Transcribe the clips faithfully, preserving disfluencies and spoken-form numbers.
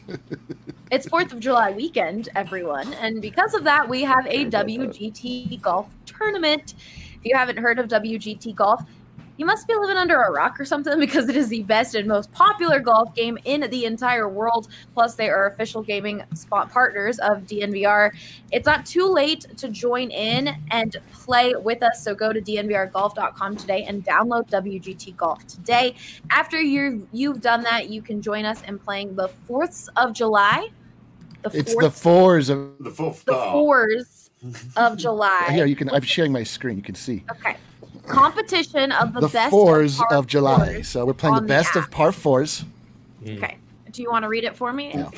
It's fourth of July weekend, everyone. And because of that, we have a W G T golf tournament. If you haven't heard of W G T golf, you must be living under a rock or something, because it is the best and most popular golf game in the entire world. Plus, they are official gaming spot partners of D N V R. It's not too late to join in and play with us, so go to D N V R golf dot com today and download W G T Golf today. After you you've done that, you can join us in playing the fourth of July. The it's the fours of the fourth. The fours of July. Here, you can. I'm sharing my screen. You can see. Okay. Competition of the, the best fours of, of July. So we're playing the best the of par fours. Okay. Do you want to read it for me? No.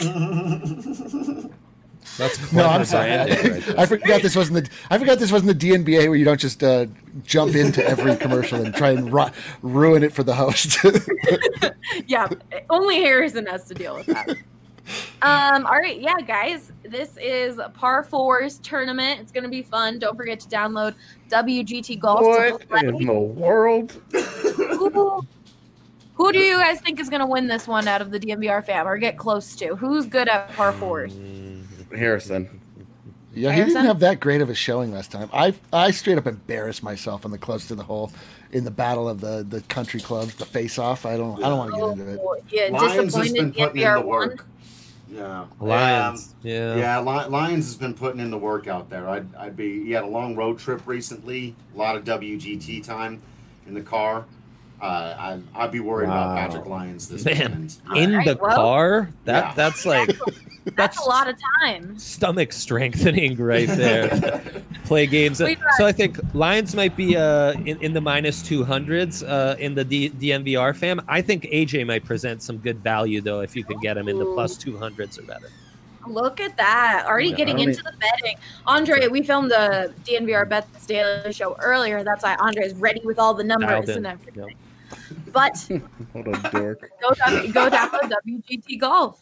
That's no, I'm sorry. I, right I forgot this wasn't the. I forgot this wasn't the D N B A where you don't just uh, jump into every commercial and try and ru- ruin it for the host. Yeah, only Harrison has to deal with that. Um, all right, yeah, guys, this is par fours tournament. It's gonna be fun. Don't forget to download W G T Golf. What in the world? Who, who do you guys think is gonna win this one out of the D N V R fam, or get close to? Who's good at par fours? Harrison. Yeah, he Harrison? didn't have that great of a showing last time. I I straight up embarrassed myself on the close to the hole in the battle of the, the country clubs, the face off. I don't I don't want to get into it. Oh, yeah, Lions has been disappointed D N putting V in R the won. work. Yeah, Lions. Um, Yeah. yeah. Li- Lions has been putting in the work out there. I'd, I'd be. He had a long road trip recently. A lot of W G T time in the car. Uh, I'd, I'd be worried Wow. about Patrick Lyons this Man, weekend. in Alright, the well, car? That yeah. that's like That's, that's a lot of time. stomach strengthening right there. Play games. We got- So I think Lions might be uh, in, in the minus two hundreds uh, in the D- DNVR fam. I think A J might present some good value, though, if you can get him in the plus two hundreds or better. Look at that. Already Yeah, getting I don't into the betting. Andre, we filmed the D N V R Bets Daily show earlier. That's why Andre's ready with all the numbers Dialed in. and everything. Yep. But What a dork. go down, go download W G T Golf.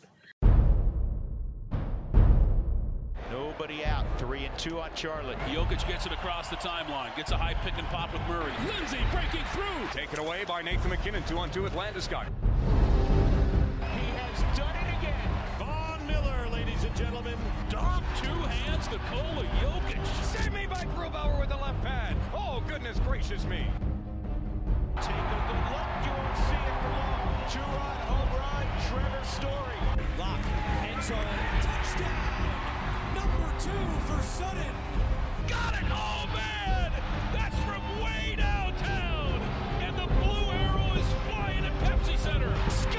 Nobody out. Three and two on Charlotte. Jokic gets it across the timeline. Gets a high pick and pop with Murray. Lindsay breaking through. Taken away by Nathan McKinnon. Two on two with Landeskog. He has done it again. Von Miller, ladies and gentlemen. Dom, two hands, Nikola Jokic. Save me by Grubauer with the left pad. Oh, goodness gracious me. Take a good look. You won't see it for long. Two-run home run. Trevor Story. Lock. End zone. Touchdown. Number two for Sutton. Got it. Oh, man. That's from way downtown. And the blue arrow is flying at Pepsi Center. Score!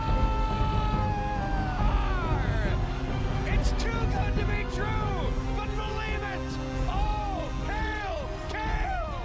It's too good to be true, but believe it. Oh, hail, Kale!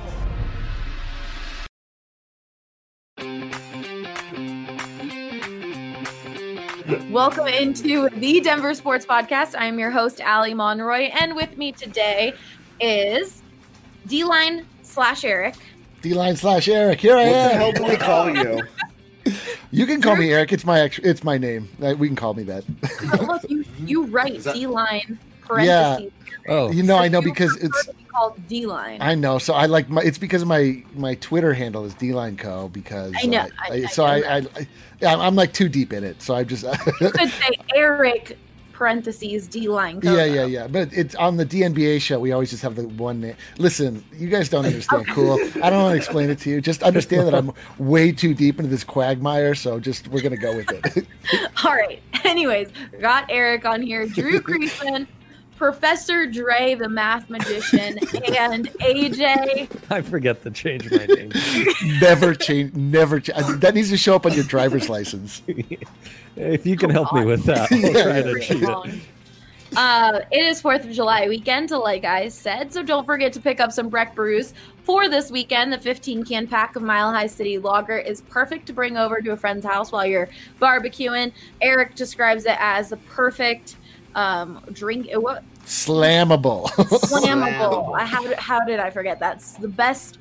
Welcome into the Denver Sports Podcast. I am your host, Allie Monroy, and with me today is D-Line slash Eric. D-line slash Eric. Here I What the am. hell do we call you? You can call me Eric. It's my ex- it's my name. Uh, We can call me that. Oh, look, you, you write Is that- D-Line Yeah. parentheses. Oh, You know, I know You because prefer it's. to be called D-Line. I know. So I like my. It's because my my Twitter handle is D-Line Co. Because I know, uh, I- I so know I, that. I, I yeah, I'm like too deep in it. So I just. You could say Eric parentheses D-Line. Yeah, yeah, yeah. But it's on the D N B A show. We always just have the one name. Listen, you guys don't understand. Cool. I don't want to explain it to you. Just understand that I'm way too deep into this quagmire. So just we're gonna go with it. All right. Anyways, got Eric on here, Drew Creasman, Professor Dre, the math magician, and A J. I forget to change my name. never change. Never. Ch- that needs to show up on your driver's license. If you can help me with that, I'll try to cheat it. Uh, it is fourth of July weekend, like I said, so don't forget to pick up some Breck brews for this weekend. The fifteen can pack of Mile High City Lager is perfect to bring over to a friend's house while you're barbecuing. Eric describes it as the perfect um, drink. What? Slammable. Slammable. Slammable. I- How, did- how did I forget? That's the best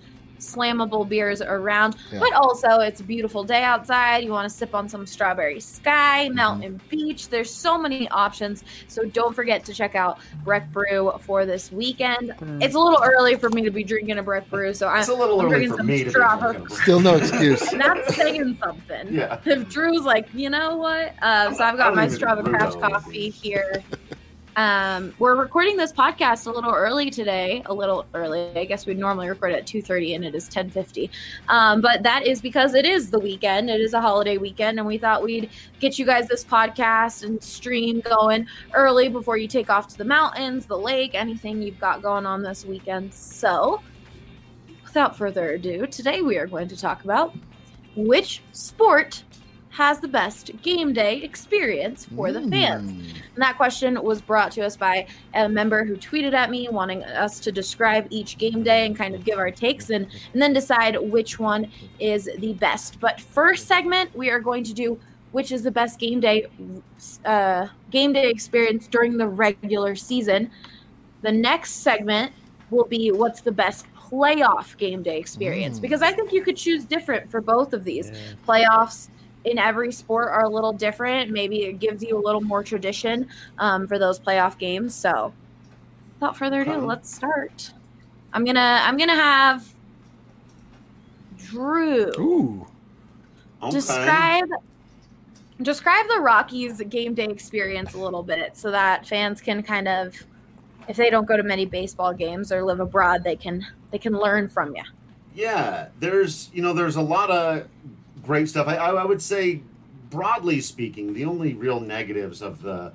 slammable beers around. Yeah. But also, it's a beautiful day outside. You want to sip on some Strawberry Sky, Mountain Mm-hmm. Beach. There's so many options. So don't forget to check out Breck Brew for this weekend. It's a little early for me to be drinking a Breck Brew, so It's I'm, a little I'm early drinking for some me to be strawberry. drinking. Still no excuse. And that's saying something. Yeah. If Drew's like, you know what? Uh, so I've I got don't my even strawberry brew patch those. coffee here. Um, we're recording this podcast a little early today. A little early. I guess we normally record at two thirty, and it is ten fifty. Um, but that is because it is the weekend. It is a holiday weekend, and we thought we'd get you guys this podcast and stream going early before you take off to the mountains, the lake, anything you've got going on this weekend. So, without further ado, today we are going to talk about which sport has the best game day experience for the fans. Mm. And that question was brought to us by a member who tweeted at me wanting us to describe each game day and kind of give our takes and, and then decide which one is the best. But first segment, we are going to do which is the best game day uh, game day experience during the regular season. The next segment will be what's the best playoff game day experience, Mm. because I think you could choose different for both of these. Yeah. Playoffs in every sport are a little different. Maybe it gives you a little more tradition um, for those playoff games. So without further ado, Okay. let's start. I'm gonna I'm gonna have Drew Ooh. Okay. describe describe the Rockies game day experience a little bit so that fans can kind of, if they don't go to many baseball games or live abroad, they can they can learn from you. Yeah, there's you know there's a lot of great stuff. I, I would say, broadly speaking, the only real negatives of the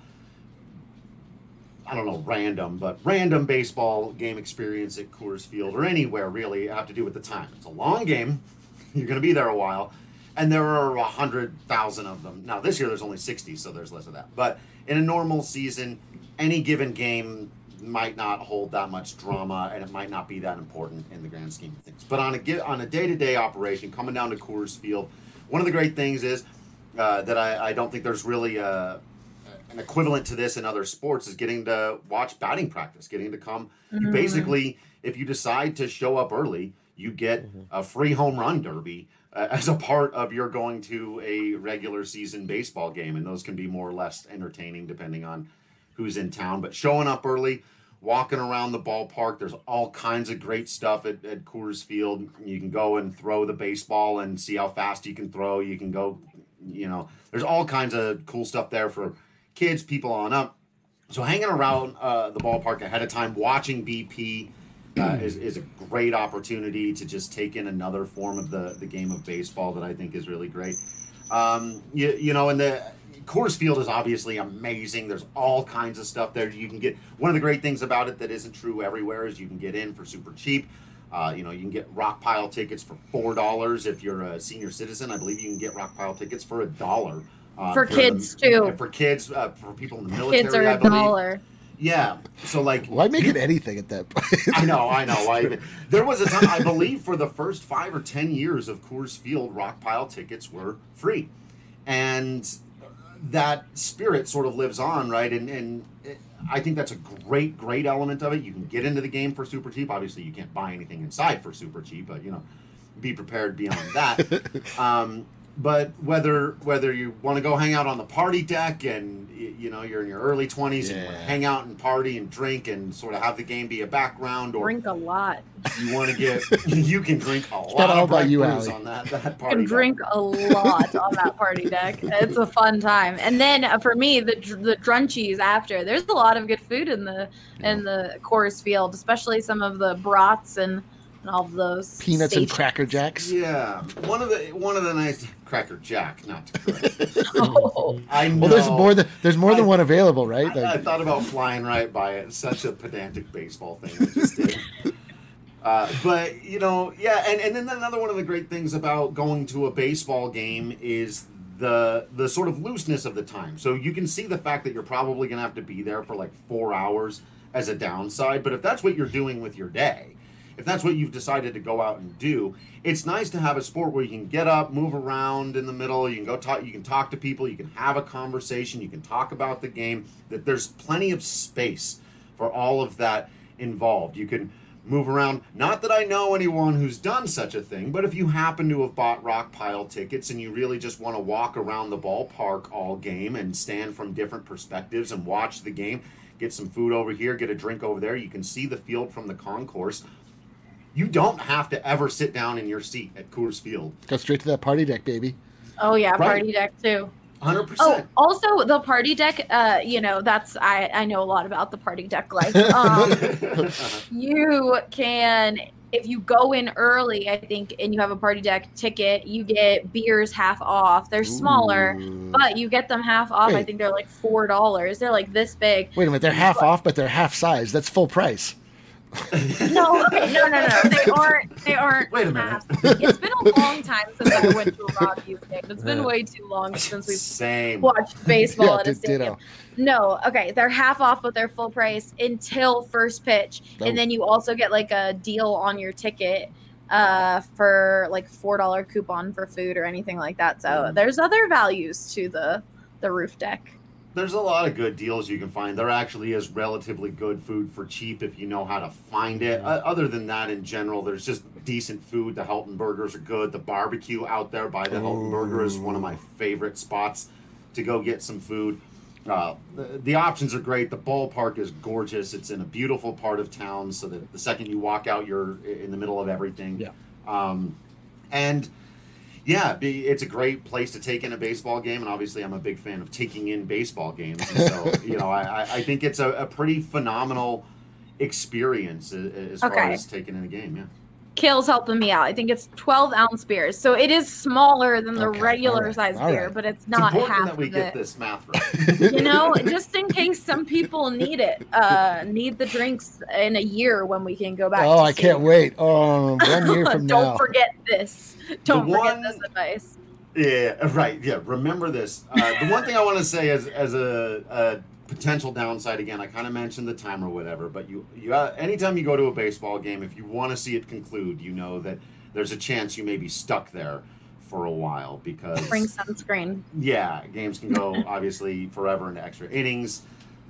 I don't know random, but random baseball game experience at Coors Field or anywhere really have to do with the time. It's a long game. You're going to be there a while, and there are a hundred thousand of them. Now this year there's only sixty, so there's less of that. But in a normal season, any given game might not hold that much drama, and it might not be that important in the grand scheme of things. But on a gi- on a day-to-day operation, coming down to Coors Field, one of the great things is uh, that I, I don't think there's really a, an equivalent to this in other sports is getting to watch batting practice, getting to come. You basically, if you decide to show up early, you get a free home run derby uh, as a part of your going to a regular season baseball game, and those can be more or less entertaining depending on who's in town. But showing up early, walking around the ballpark, there's all kinds of great stuff at, at Coors Field. You can go and throw the baseball and see how fast you can throw. You can go, you know, there's all kinds of cool stuff there for kids, people on up. So hanging around uh, the ballpark ahead of time, watching B P uh, is, is a great opportunity to just take in another form of the, the game of baseball that I think is really great. Um, you, you know, and the Coors Field is obviously amazing. There's all kinds of stuff there. You can get, one of the great things about it that isn't true everywhere is you can get in for super cheap. Uh, you know, you can get rock pile tickets for four dollars if you're a senior citizen. I believe you can get rock pile tickets for a dollar. Uh, For kids, too. For kids, uh, for people in the military, Kids are I a believe. dollar. Yeah. So like, Why make it anything at that point? I know, I know. I even, there was a time, I believe, for the first five or ten years of Coors Field, rock pile tickets were free, and that spirit sort of lives on, right? And and it, I think that's a great, great element of it. You can get into the game for super cheap. Obviously, you can't buy anything inside for super cheap, but you know, be prepared beyond that. um, but whether whether you want to go hang out on the party deck and y- you know you're in your early twenties and you want to Yeah. hang out and party and drink and sort of have the game be a background, or Drink a lot. you want to get you can drink a lot not all of about Breck you, brews Allie. on that that You party can deck. drink a lot on that party deck. It's a fun time. And then uh, for me, the dr- the drunchies after. There's a lot of good food in the in the Coors Field, especially some of the brats and, and all of those Peanuts and stations. Cracker Jacks. Yeah, one of the one of the nice Cracker Jack, not to correct. Oh, I know. Well, there's more than there's more than I- one available, right? I, I Like, thought about flying right by it. Such a pedantic baseball thing I just did. Uh, but you know, yeah, and, and then another one of the great things about going to a baseball game is the the sort of looseness of the time. So you can see the fact that you're probably going to have to be there for like four hours as a downside. But if that's what you're doing with your day, if that's what you've decided to go out and do, it's nice to have a sport where you can get up, move around in the middle, you can go talk, you can talk to people, you can have a conversation, you can talk about the game, that there's plenty of space for all of that involved. You can move around. Not that I know anyone who's done such a thing, but if you happen to have bought rock pile tickets and you really just want to walk around the ballpark all game and stand from different perspectives and watch the game, get some food over here, get a drink over there, you can see the field from the concourse. You don't have to ever sit down in your seat at Coors Field. Go straight to that party deck, baby. Oh yeah, Right. party deck too. one hundred Oh, percent. also the party deck. Uh, you know, that's I I know a lot about the party deck life. Um, you can, if you go in early, I think, and you have a party deck ticket, you get beers half off. They're smaller, Ooh. but you get them half off. I Wait. think they're like four dollars. They're like this big. Wait a minute, they're half off, but they're half size. That's full price. No, okay, no, no, no. They aren't. They aren't. Wait a minute. half. It's been a long time since I went to a Rockies game. It's been way too long since we've Same. watched baseball Yeah, at a did- stadium. ditto. No, okay, they're half off, but they're full price until first pitch, Oh. and then you also get like a deal on your ticket uh for like four dollar coupon for food or anything like that. So Mm. there's other values to the the roof deck. There's a lot of good deals you can find. There actually is relatively good food for cheap if you know how to find it. Uh, other than that, in general, there's just decent food. The Helton Burgers are good. The barbecue out there by the Helton Burger is one of my favorite spots to go get some food. Uh, the, the options are great. The ballpark is gorgeous. It's in a beautiful part of town, so that the second you walk out, you're in the middle of everything. Yeah. Um, and yeah, be, it's a great place to take in a baseball game, and obviously I'm a big fan of taking in baseball games. And so, you know, I, I think it's a, a pretty phenomenal experience as, as far Okay. as taking in a game. Yeah. Kale's helping me out. I think it's twelve ounce beers, so it is smaller than the Okay, regular all right, size all beer, right. but it's It's not important half that we of get it. this math right. You know, just in case some people need it, uh, need the drinks in a year when we can go back. Oh, to I can't stadium. wait. Oh, one year from Don't now. forget this. Don't forget one- this advice. Yeah, right. Yeah, remember this. Uh, the one thing I want to say as as a, a potential downside, again, I kind of mentioned the time or whatever, but you you uh, anytime you go to a baseball game, if you want to see it conclude, you know that there's a chance you may be stuck there for a while because Bring sunscreen. yeah, games can go obviously forever into extra innings.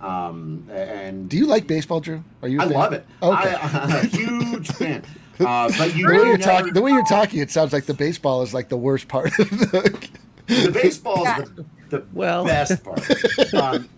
Um, and Do you like baseball, Drew? Are you? a I fan? love it. Okay. I, I'm a huge fan. Uh, but you The way, you're never- talking, the way you're talking, it sounds like the baseball is like the worst part of the. the baseball is the, the Well. best part. Um,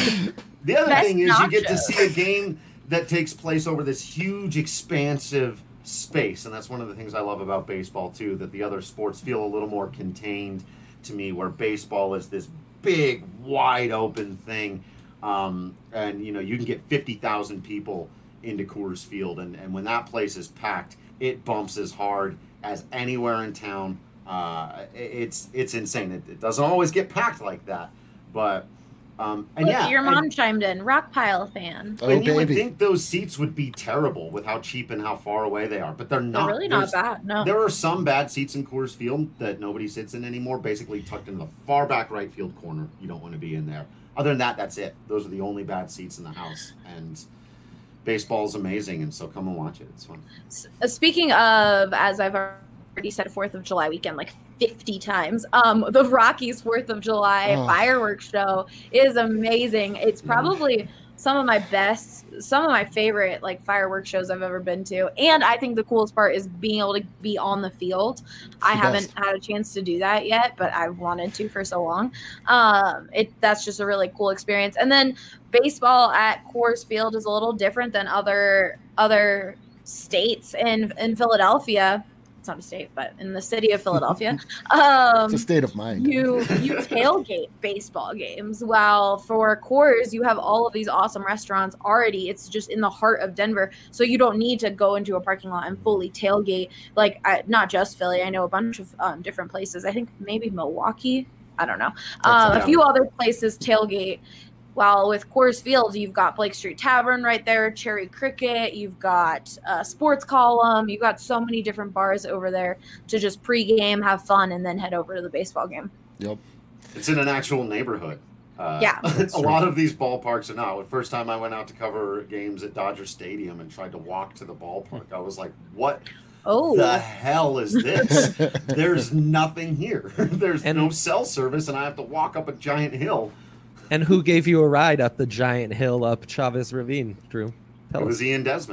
the other Best thing is you get to nacho. see a game that takes place over this huge, expansive space, and that's one of the things I love about baseball too. That the other sports feel a little more contained to me, where baseball is this big, wide open thing, um, and you know you can get fifty thousand people into Coors Field, and, and when that place is packed, it bumps as hard as anywhere in town. Uh, it- it's it's insane. It, it doesn't always get packed like that, but um, and Look, yeah, your and- mom chimed in. Rock pile fan. Oh, and you would baby. think those seats would be terrible with how cheap and how far away they are, but they're They're not. really not There's- bad. No. There are some bad seats in Coors Field that nobody sits in anymore, basically tucked in the far back right field corner. You don't want to be in there. Other than that, that's it. Those are the only bad seats in the house. And baseball's amazing, and so come and watch it. It's fun. S- uh, Speaking of, as I've already said, Fourth of July weekend like fifty times. Um, the Rockies Fourth of July Oh. fireworks show is amazing. It's probably some of my best, some of my favorite like fireworks shows I've ever been to. And I think the coolest part is being able to be on the field. I the haven't best. had a chance to do that yet, but I've wanted to for so long. Um, it that's just a really cool experience. And then baseball at Coors Field is a little different than other other states in in Philadelphia. It's not a state, but in the city of Philadelphia. Um, It's a state of mind. you you tailgate baseball games, while for Coors you have all of these awesome restaurants already. It's just in the heart of Denver, so you don't need to go into a parking lot and fully tailgate. Like I, not just Philly, I know a bunch of um, different places. I think maybe Milwaukee. I don't know. Um, yeah. a few other places tailgate. While with Coors Field, you've got Blake Street Tavern right there, Cherry Cricket, you've got uh, Sports Column, you've got so many different bars over there to just pregame, have fun, and then head over to the baseball game. Yep. It's in an actual neighborhood. Uh, Yeah. a lot of these ballparks are not. The first time I went out to cover games at Dodger Stadium and tried to walk to the ballpark, I was like, what Oh, the hell is this? There's nothing here. There's And- no cell service, and I have to walk up a giant hill. And who gave you a ride up the giant hill up Chavez Ravine, Drew? Tell It us. was Ian Desmond.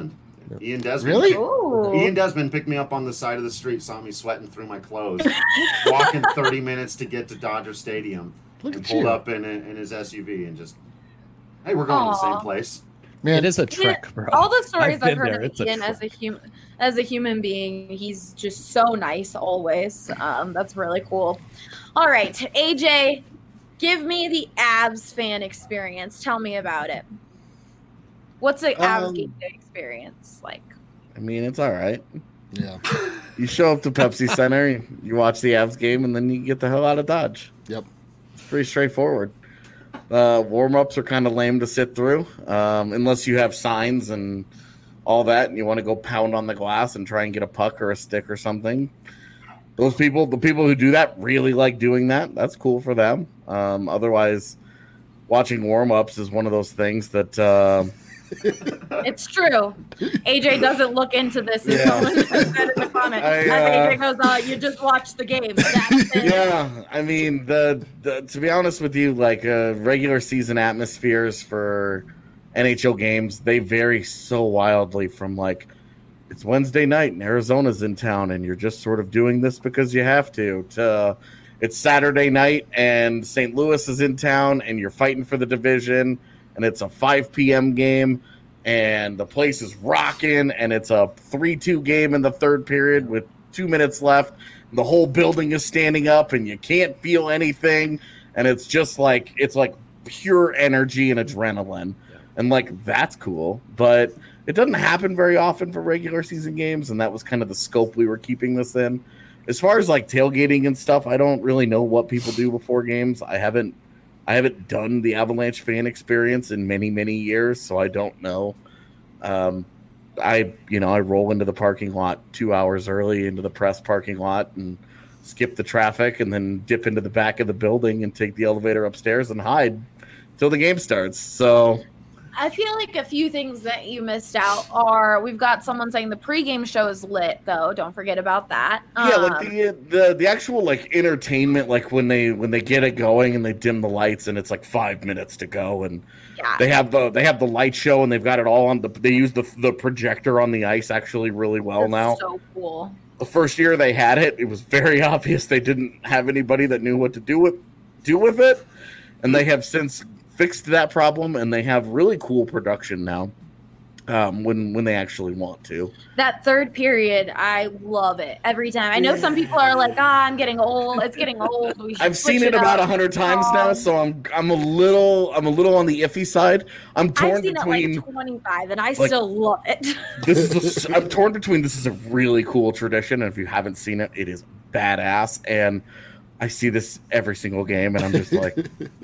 Ian Desmond. Really? Ooh. Ian Desmond picked me up on the side of the street, saw me sweating through my clothes, walking thirty minutes to get to Dodger Stadium, Look and at pulled you. up in, in his S U V and just, hey, we're going to the same Aw. place. Man, It is a trick, bro. All the stories I've I've, been heard there. of It's a Ian as a trick. human, as a human being, he's just so nice always. Um, that's really cool. All right, A J, give me the Abs fan experience. Tell me about it. What's the Abs Um, game day experience like? I mean, it's all right. yeah. You show up to Pepsi Center, you watch the Avs game, and then you get the hell out of Dodge. Yep. It's pretty straightforward. Uh, warm-ups are kind of lame to sit through, um, unless you have signs and all that, and you want to go pound on the glass and try and get a puck or a stick or something. Those people, the people who do that, really like doing that. That's cool for them. Um, otherwise, watching warm-ups is one of those things that uh, It's true. A J doesn't look into this. As Yeah. someone just said in the comment. I, As uh, A J goes, uh, you just watch the game. That's it. yeah, I mean, the, the to be honest with you, like uh, regular season atmospheres for N H L games, they vary so wildly from like it's Wednesday night and Arizona's in town and you're just sort of doing this because you have to, to it's Saturday night and Saint Louis is in town and you're fighting for the division and it's a five p.m. game and the place is rocking and it's a three two game in the third period with two minutes left. The whole building is standing up and you can't feel anything. And it's just like, it's like pure energy and adrenaline. And like, that's cool. But it doesn't happen very often for regular season games. And that was kind of the scope we were keeping this in. As far as like tailgating and stuff, I don't really know what people do before games. I haven't, I haven't done the Avalanche fan experience in many, many years. So I don't know. Um, I, you know, I roll into the parking lot two hours early into the press parking lot and skip the traffic and then dip into the back of the building and take the elevator upstairs and hide till the game starts. So I feel like a few things that you missed out are we've got someone saying the pregame show is lit, though. Don't forget about that. yeah, like Um, the, the the actual like entertainment, like when they when they get it going and they dim the lights and it's like five minutes to go and yeah. they have the they have the light show and they've got it all on the they use the the projector on the ice actually really well That's now. so cool. The first year they had it, it was very obvious they didn't have anybody that knew what to do with do with it, and they have since fixed that problem, and they have really cool production now. Um, when when they actually want to. That third period, I love it every time. I know some people are like, "Ah, I'm getting old. It's getting old." We should I've switch seen it about a up." hundred times now, Um, so I'm I'm a little I'm a little on the iffy side. I'm torn I've seen between it like twenty-five, and I like, still love it. this is a, I'm torn between this is a really cool tradition, and if you haven't seen it, it is badass, and I see this every single game, and I'm just like,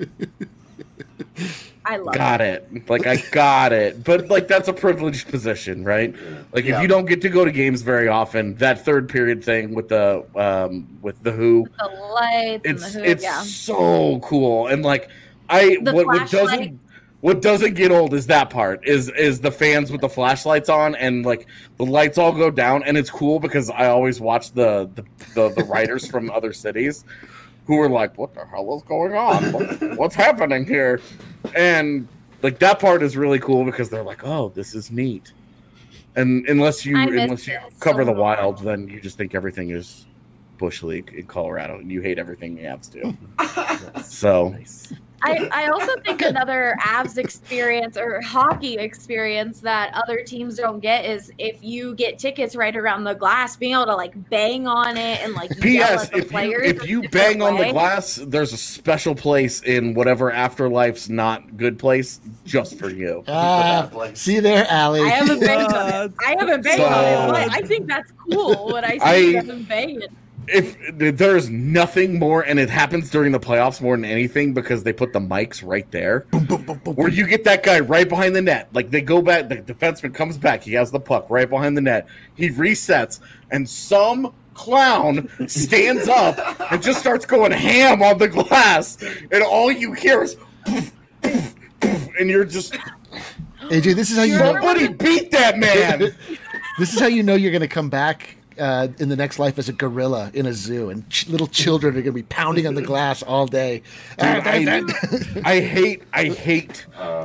I love got it. it. Like I got it. But like that's a privileged position, right? Like Yeah. if you don't get to go to games very often, that third period thing with the um with the Who, The lights it's and the hood, it's yeah. so cool. And like I The what, what flashlight. doesn't what doesn't get old is that part is is the fans with the flashlights on and like the lights all go down, and it's cool because I always watch the the, the, the writers from other cities who are like, what the hell is going on? What, what's happening here? And like that part is really cool because they're like, oh, this is neat. And unless you I miss unless you this cover so the much. wild, then you just think everything is Bush League in Colorado, and you hate everything the Avs do. So Nice. I, I also think another Avs experience or hockey experience that other teams don't get is if you get tickets right around the glass, being able to like bang on it and like P yell S at the if you players. if in you a different bang on the way. glass, there's a special place in whatever Afterlife's not good place just for you. Ah, That place. see there, Allie. I haven't banged on it. I haven't banged on it, So- but I think that's cool when I see I- them bang it. If there's nothing more, and it happens during the playoffs more than anything because they put the mics right there, where you get that guy right behind the net. Like they go back, the defenseman comes back, he has the puck right behind the net, he resets, and some clown stands up and just starts going ham on the glass, and all you hear is, poof, poof, poof, and you're just A J, this is how you know. somebody beat that man. This is how you know you're going to come back uh, in the next life as a gorilla in a zoo, and ch- little children are going to be pounding on the glass all day. Dude, I, I hate, I hate, Uh,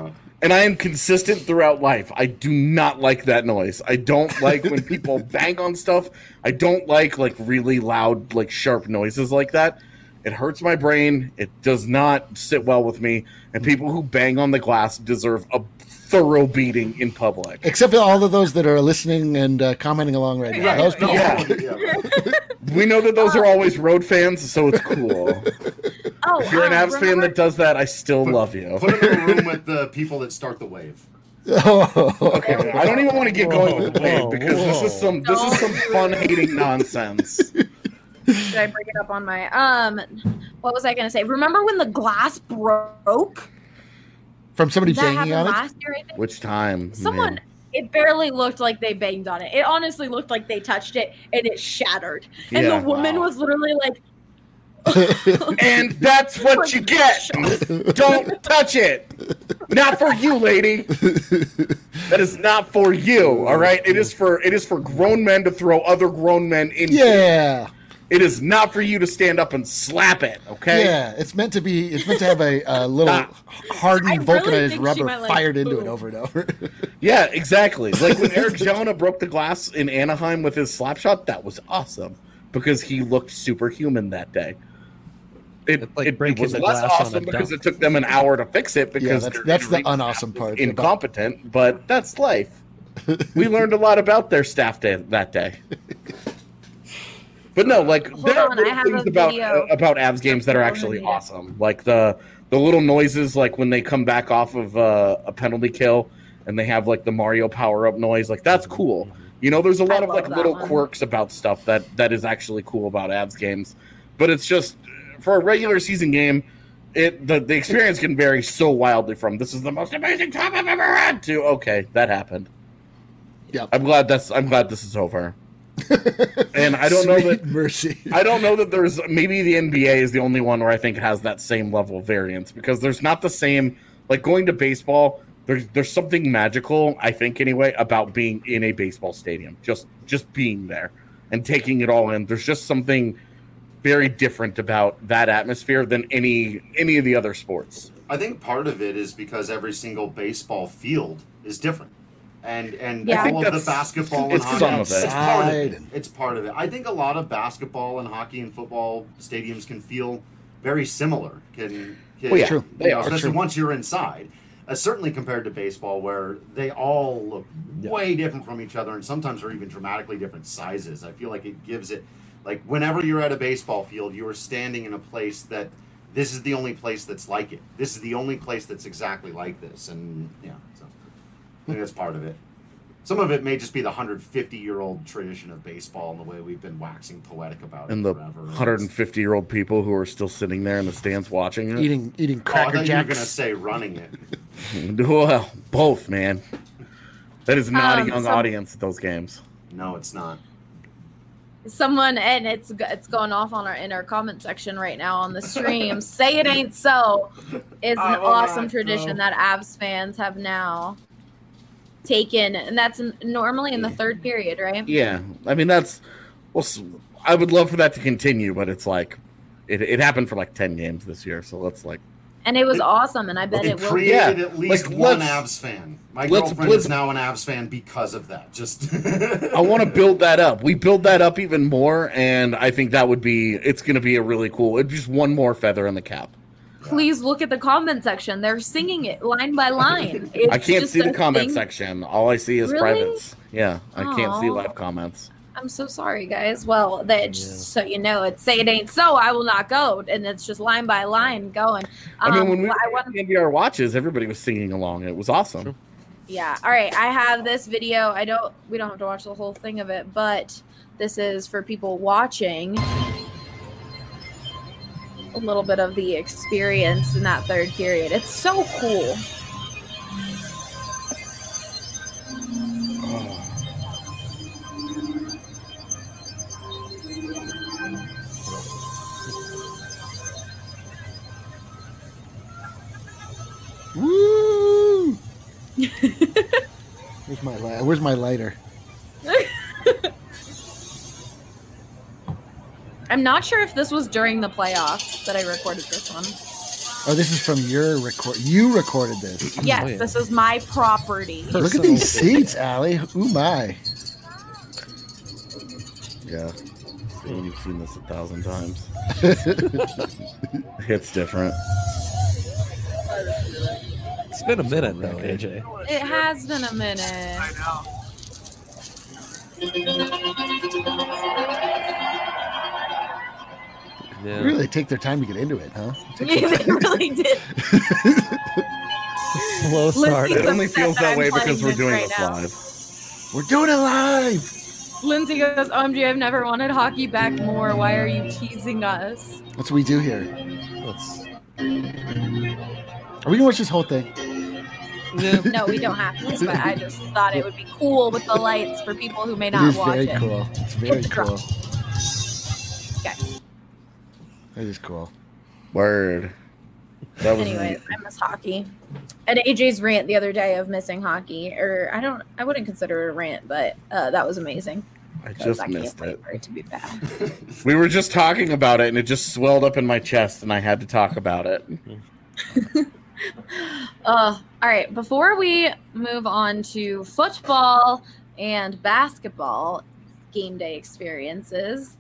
And I am consistent throughout life. I do not like that noise. I don't like when people bang on stuff. I don't like like really loud, like sharp noises like that. It hurts my brain. It does not sit well with me. And people who bang on the glass deserve a thorough beating in public. Except for all of those that are listening and uh, commenting along right now. Those people, yeah. We know that those are always Road fans, so it's cool. Oh, if you're an um, Avs fan remember- that does that, I still Put- love you. Put him in a room with the people that start the wave. Oh, Okay, I don't even want to get going with the wave Whoa, because this is some this is some fun hating nonsense. Should I bring it up on my um? What was I gonna say? Remember when the glass broke? from somebody That banging happened on it. last year, I think. Which time? Someone. man? It barely looked like they banged on it. It honestly looked like they touched it and it shattered. And Yeah, the woman wow. was literally like, And that's what you get. Don't touch it. Not for you, lady. That is not for you. All right. It is for it is for grown men to throw other grown men in. Yeah, It is not for you to stand up and slap it. Okay. yeah. It's meant to be. It's meant to have a, a little I hardened really vulcanized think she rubber might, like, fired into it boom. over and over. Yeah, exactly. Like when Eric Jonah broke the glass in Anaheim with his slap shot, that was awesome because he looked superhuman that day. It, It's like it, it breaking was the less glass on a awesome because dunk. it took them an hour to fix it because Yeah, that's- their that's the injury unawesome staff part was about- incompetent, but that's life. We learned a lot about their staff day, that day. But no, like Hold there are on, I little have things a about video. uh, about Avs games that are actually Yeah. awesome. Like the the little noises, like when they come back off of uh, a penalty kill and they have like the Mario power up noise. Like that's cool. You know, there's a lot I of like love that little one. quirks about stuff that that is actually cool about Avs games. But it's just for a regular season game, it the, the experience can vary so wildly from this is the most amazing time I've ever had to okay, that happened. Yep. I'm glad that's I'm glad this is over. And I don't know Sweet that mercy. I don't know that there's maybe the N B A is the only one where I think has that same level of variance because there's not the same like going to baseball. There's there's something magical, I think anyway, about being in a baseball stadium. Just just being there and taking it all in. There's just something very different about that atmosphere than any any of the other sports. I think part of it is because every single baseball field is different. And and Yeah. I think all of the that's- basketball and it's hockey, some of it. it's part of it. Outside. It's part of it. I think a lot of basketball and hockey and football stadiums can feel very similar. Can, can Well, yeah, True. they you know, are especially true. once you're inside. Uh, certainly compared to baseball, where they all look way different from each other, and sometimes are even dramatically different sizes. I feel like it gives it, like whenever you're at a baseball field, you are standing in a place that this is the only place that's like it. This is the only place that's exactly like this, and yeah, so I think that's part of it. Some of it may just be the one hundred fifty year old tradition of baseball and the way we've been waxing poetic about And it the forever. one hundred fifty year old people who are still sitting there in the stands watching it. Eating eating Oh, I cracker thought you were going to jacks. say running it. Well, both, man. That is not Um, a young some- audience at those games. No, it's not. someone, and it's it's going off on our in our comment section right now on the stream. Say it ain't so is I an will awesome not, tradition no. that Avs fans have now taken, and that's n- normally in the third period, right? Yeah, I mean that's. Well, s- I would love for that to continue, but it's like, it, it happened for like ten games this year, so let's like. And it was It- awesome, and I bet It it will. created Yeah, at least like, one let's- Avs fan. My let's- girlfriend let's- is now an Avs fan because of that. Just I want to build that up. We build that up even more, and I think that would be. It's going to be a really cool. It's just one more feather in the cap. Please look at the comment section. They're singing it line by line. It's I can't just see the a comment thing. section. All I see is Really? privates. Yeah, I can't see Aw. live comments. I'm so sorry, guys. Well, that just so you know, it's say it ain't so. I will not go, and it's just line by line going. Um, I mean, when we I were want at the N B R watches, everybody was singing along. It was awesome. Yeah. All right. I have this video. I don't. We don't have to watch the whole thing of it, but this is for people watching. A little bit of the experience in that third period. It's so cool. Woo! Where's my li- Where's my lighter? I'm not sure if this was during the playoffs that I recorded this one. Oh, this is from your record. You recorded this. Yes, Oh, yeah. this is my property. Look at Personal these seats, Allie. Ooh my. Yeah. You've seen this a thousand times. It's different. It's been a minute though, A J. It has been a minute. Yeah. Really, they take their time to get into it, huh? Yeah, they really did. Slow start. Lindsay's It only upset feels that that I'm way playing because we're this doing right this now. live. We're doing it live. Lindsay goes, O M G, I've never wanted hockey back more. Why are you teasing us? That's what we do here. Let's- Are we gonna watch this whole thing? yeah. No, we don't have to, but I just thought it would be cool with the lights for people who may It not is watch very it. cool. It's very It's cool. Okay. That is cool. Word. That was Anyways, I miss hockey. And A J's rant the other day of missing hockey, or I don't, I wouldn't consider it a rant, but uh, that was amazing. I 'Cause just I can't missed wait it. for it to be back. We were just talking about it, and it just swelled up in my chest, and I had to talk about it. Uh, all right. Before we move on to football and basketball game day experiences,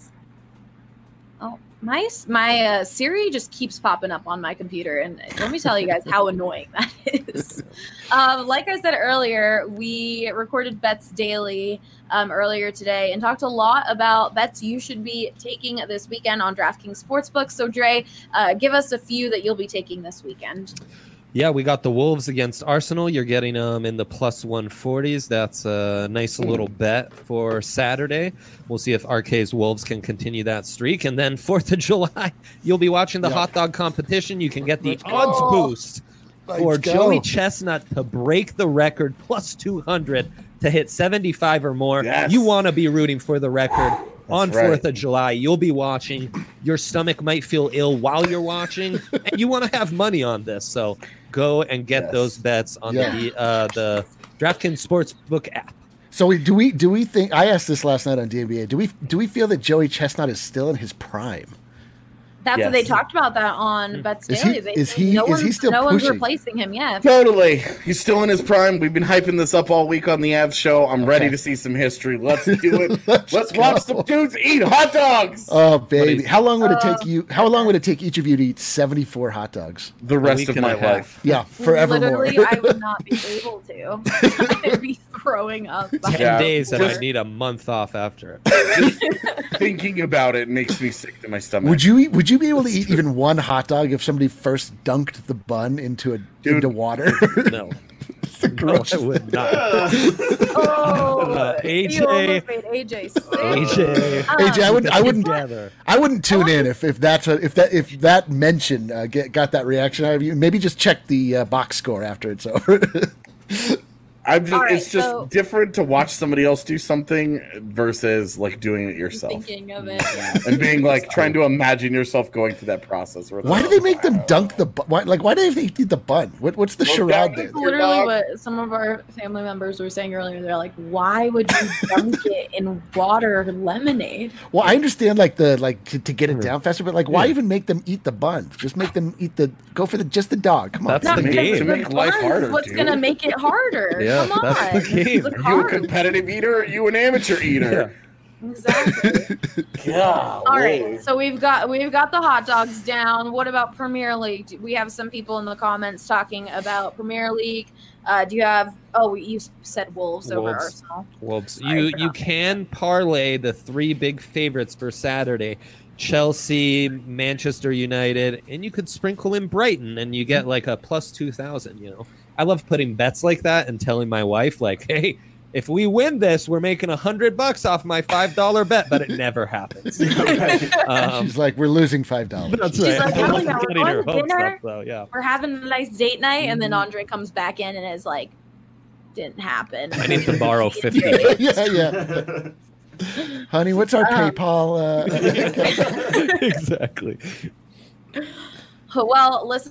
oh my my uh, Siri just keeps popping up on my computer, and let me tell you guys how annoying that is. Um, like I said earlier, we recorded Bets Daily um, earlier today and talked a lot about bets you should be taking this weekend on DraftKings Sportsbook. So Dre, uh, give us a few that you'll be taking this weekend. Yeah, we got the Wolves against Arsenal. You're getting them um, in the plus one forties. That's a nice little bet for Saturday. We'll see if R K's Wolves can continue that streak. And then fourth of July, you'll be watching the Yeah. hot dog competition. You can get the Let's go. odds boost for Let's go. Joey Chestnut to break the record plus two hundred to hit seventy-five or more. Yes. You want to be rooting for the record. On right. fourth of July, you'll be watching. Your stomach might feel ill while you're watching, and you want to have money on this. So go and get Yes. those bets on Yeah. the uh, the DraftKings Sportsbook app. So we, do we do we think? I asked this last night on D N B A. Do we do we feel that Joey Chestnut is still in his prime? That's Yes. what they talked about that on Bets Is he- Daily. They is said he- no is one's, he still no one's pushing? replacing him yet. Totally. He's still in his prime. We've been hyping this up all week on the Avs show. I'm ready Okay. to see some history. Let's do it. Let's Let's go. watch some dudes eat hot dogs. Oh baby, is- how long would it Uh, take you? How long would it take each of you to eat seventy-four hot dogs? the rest week of and my a half. life. Yeah, forevermore. Literally, I would not be able to. I'd be throwing up. by Ten Yeah. days, and I Just- need a month off after it. Thinking about it makes me sick to my stomach. Would you eat- would you be able to eat even one hot dog if somebody first dunked the bun into a Dude. into water? No, The no, gross- I would not. Oh, Uh, A J. you almost made A J sick. A J, Um, A J, I wouldn't I wouldn't together. I wouldn't tune in if, if that's a, if that if that mention uh, get, got that reaction out of you. Maybe just check the uh, box score after it's over. I'm just, All right, it's just so- different to watch somebody else do something versus like doing it yourself Thinking of it. and being like trying to imagine yourself going through that process. where it's Why do like, they make them dunk the bu- why, like? Why do they eat the bun? What, what's the Well, charade that- there? That's literally what some of our family members were saying earlier. They're like, "Why would you dunk it in water lemonade?" Well, I understand like the like to, to get it down faster, but like, why Yeah. even make them eat the bun? Just make them eat the go for the just the dog. Come on, That's Not the because game. To make life bun's harder, What's dude. gonna make it harder? Yeah, Come on. that's the game. The Are you a carbs. competitive eater or are you an amateur eater? Exactly. Yeah. All right, so we've got we've got the hot dogs down. What about Premier League? Do- We have some people in the comments talking about Premier League. Uh, do you have? Oh, you said Wolves, over Wolves. Arsenal. Wolves. Sorry, You I you forgot. can parlay the three big favorites for Saturday. Chelsea, Manchester United, and you could sprinkle in Brighton and you get like a plus two thousand, you know. I love putting bets like that and telling my wife, like, hey, if we win this, we're making a hundred bucks off my five dollar bet, but it never happens. um, She's like, we're losing five dollars. that's She's right. like, I "Oh, wasn't yeah, we're getting her going to hopes dinner?" up, though, yeah. We're having a nice date night, and then Mm-hmm. Andre comes back in and is like, "Didn't happen." I need to borrow fifty Okay. yeah, yeah. Honey, what's our Um, PayPal? Uh, exactly. Well, listen,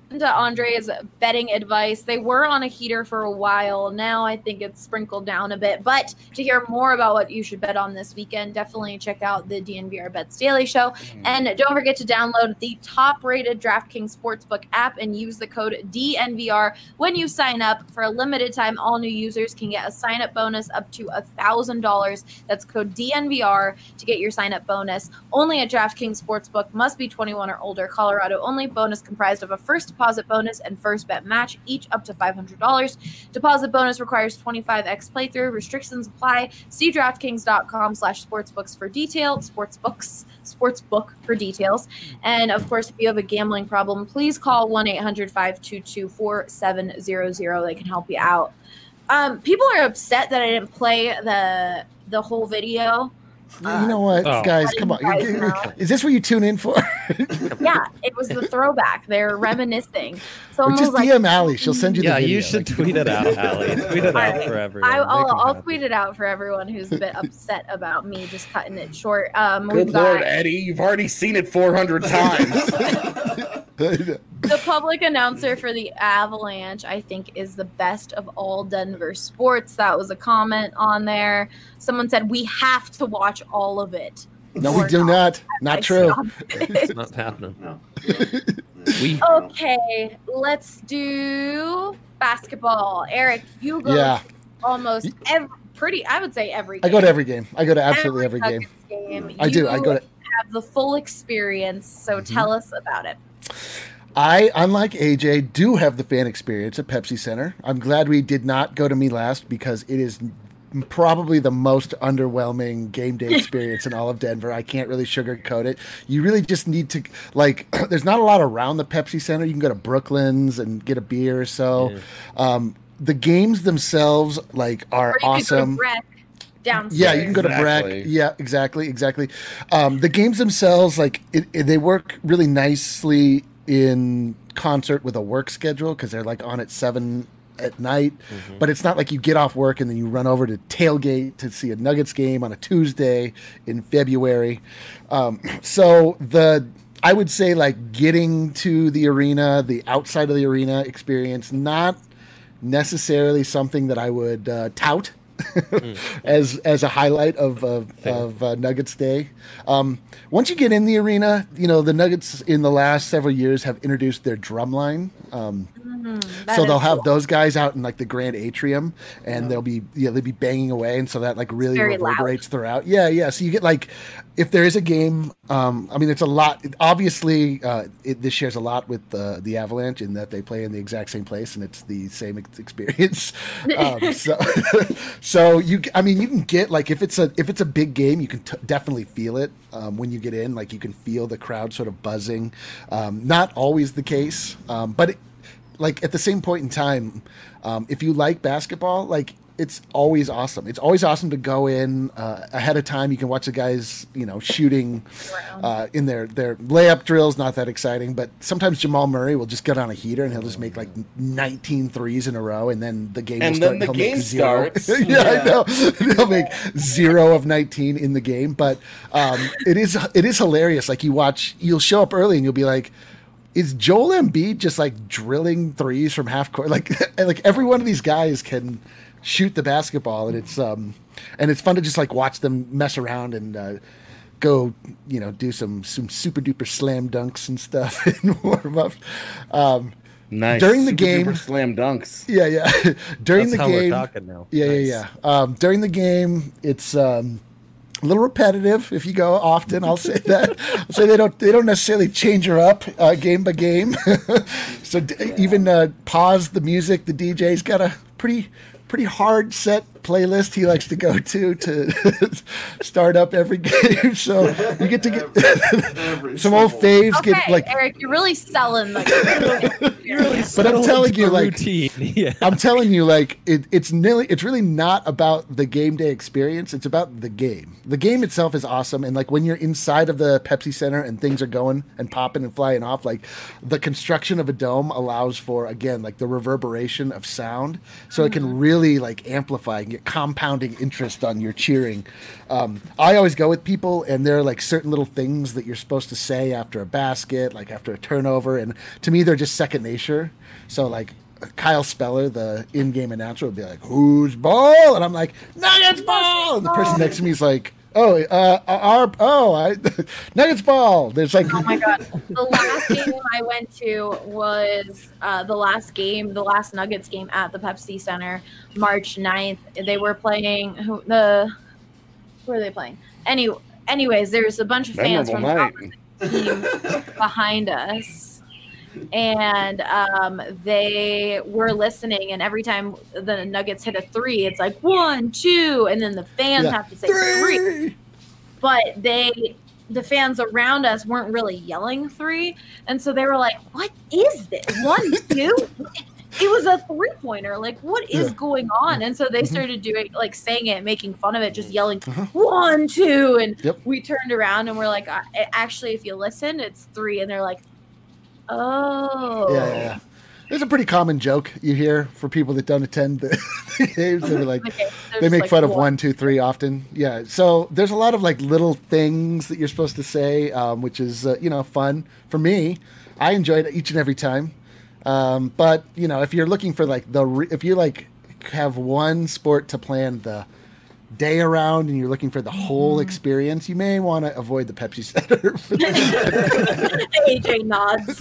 to Andre's betting advice. They were on a heater for a while. Now I think it's sprinkled down a bit. But to hear more about what you should bet on this weekend, definitely check out the D N V R Bets Daily Show. Mm. And don't forget to download the top-rated DraftKings Sportsbook app and use the code D N V R when you sign up. For a limited time, all new users can get a sign-up bonus up to one thousand dollars. That's code D N V R to get your sign-up bonus. Only at DraftKings Sportsbook. Must be twenty-one or older. Colorado only. Bonus comprised of a first deposit bonus and first bet match, each up to five hundred dollars. Deposit bonus requires twenty-five x playthrough. Restrictions apply. See DraftKings.com slash sportsbooks for details. Sportsbooks, sportsbook for details. And of course, if you have a gambling problem, please call one eight hundred five two two four seven zero zero. They can help you out. Um, people are upset that I didn't play the the whole video. Uh, you know what, oh. guys? Come on. Guys Is this what you tune in for? Yeah, it was the throwback. They're reminiscing. So just like, D M Allie. She'll send you the yeah, video. you should like, tweet it out, Allie. Tweet it out for everyone. I, I'll, I'll tweet it out for everyone who's a bit upset about me just cutting it short. Um, Good Lord, Eddie. You've already seen it four hundred times. The public announcer for the Avalanche, I think, is the best of all Denver sports. That was a comment on there. Someone said, we have to watch all of it. No, we do not. Not, not true. It's not happening. No. we okay, let's do basketball. Eric, you go yeah. almost every, pretty, I would say every game. I go to every game. I go to absolutely every, every game. game. I do. I go to have the full experience, so mm-hmm. tell us about it. I, unlike A J, do have the fan experience at Pepsi Center. I'm glad we did not go to Me Last because it is probably the most underwhelming game day experience in all of Denver. I can't really sugarcoat it. You really just need to, like, there's not a lot around the Pepsi Center. You can go to Brooklyn's and get a beer or so. Yeah. Um, the games themselves, like, are awesome. Downstairs. Yeah, you can go to exactly. Breck. Yeah, exactly, exactly. Um, the games themselves, like, it, it, they work really nicely in concert with a work schedule because they're like on at seven at night, mm-hmm. but it's not like you get off work and then you run over to tailgate to see a Nuggets game on a Tuesday in February. Um, so the I would say like getting to the arena, the outside of the arena experience, not necessarily something that I would uh, tout. mm. as as a highlight of of, of uh, Nuggets Day. Um, once you get in the arena, you know the Nuggets in the last several years have introduced their drum line. Um, mm, so they'll have cool. those guys out in like the grand atrium, and yeah. they'll be yeah they'll be banging away, and so that like really reverberates loud. throughout. Yeah, yeah. So you get like if there is a game, um, I mean it's a lot. Obviously, uh, it, this shares a lot with uh, the Avalanche in that they play in the exact same place, and it's the same experience. um, so. So you, I mean, you can get like if it's a if it's a big game, you can t- definitely feel it um, when you get in. Like you can feel the crowd sort of buzzing. Um, not always the case, um, but it, like at the same point in time, um, if you like basketball, like it's always awesome. It's always awesome to go in uh, ahead of time. You can watch the guys, you know, shooting uh, in their, their layup drills. Not that exciting, but sometimes Jamal Murray will just get on a heater and he'll just make like nineteen threes in a row, and then the game and will start. And then the and game starts. yeah, yeah, I know. He'll make zero of nineteen in the game, but um, it is it is hilarious. Like you watch, you'll show up early and you'll be like, is Joel Embiid just like drilling threes from half court? Like like every one of these guys can shoot the basketball, and it's um and it's fun to just like watch them mess around and uh, go, you know, do some some super duper slam dunks and stuff and warm up. Um, nice during the super game, duper slam dunks. Yeah, yeah. during That's the how game, we're talking now. Yeah, nice. yeah, yeah. Um, during the game, it's um. a little repetitive if you go often. I'll say that. I'll say they don't they don't necessarily change her up uh, game by game. so d- yeah. even uh, pause the music. The D J's got a pretty pretty hard set playlist he likes to go to to start up every game. So you get to get some old faves. Okay, get like Eric, you're really selling. Like, you're really but I'm telling you, like, routine. Yeah. I'm telling you, like, it, it's nearly, it's really not about the game day experience. It's about the game. The game itself is awesome, and like when you're inside of the Pepsi Center and things are going and popping and flying off, like the construction of a dome allows for again like the reverberation of sound, so mm-hmm. it can really really like amplifying, get compounding interest on your cheering. Um, I always go with people, and there are like certain little things that you're supposed to say after a basket, like after a turnover, and to me they're just second nature. So like Kyle Speller, the in-game announcer, would be like, "Whose ball?" And I'm like, "Nuggets ball." And the person next to me is like, "Oh, uh, our oh, I, Nuggets ball." There's like, oh my god, the last game I went to was uh, the last game, the last Nuggets game at the Pepsi Center, March ninth. They were playing who the who are they playing? Any, anyways, there's a bunch of fans from the opposite team behind us. And um, they were listening, and every time the Nuggets hit a three, it's like one, two, and then the fans Yeah. have to say three. three. But they, the fans around us weren't really yelling three, and so they were like, "What is this? One, two?" It was a three pointer. Like, what is Yeah. going on? And so they started doing, like, saying it, making fun of it, just yelling Uh-huh. one, two, and Yep. we turned around and we're like, "Uh, actually, if you listen, it's three, and they're like, oh, yeah, yeah, yeah. It's a pretty common joke you hear for people that don't attend the games. They're like, Okay, they just make like fun of one. one, two, three often. Yeah. So there's a lot of like little things that you're supposed to say, um, which is, uh, you know, fun for me. I enjoy it each and every time. Um, but you know, if you're looking for like the, re- if you like have one sport to plan the day around and you're looking for the whole experience, you may want to avoid the Pepsi Center. A J nods.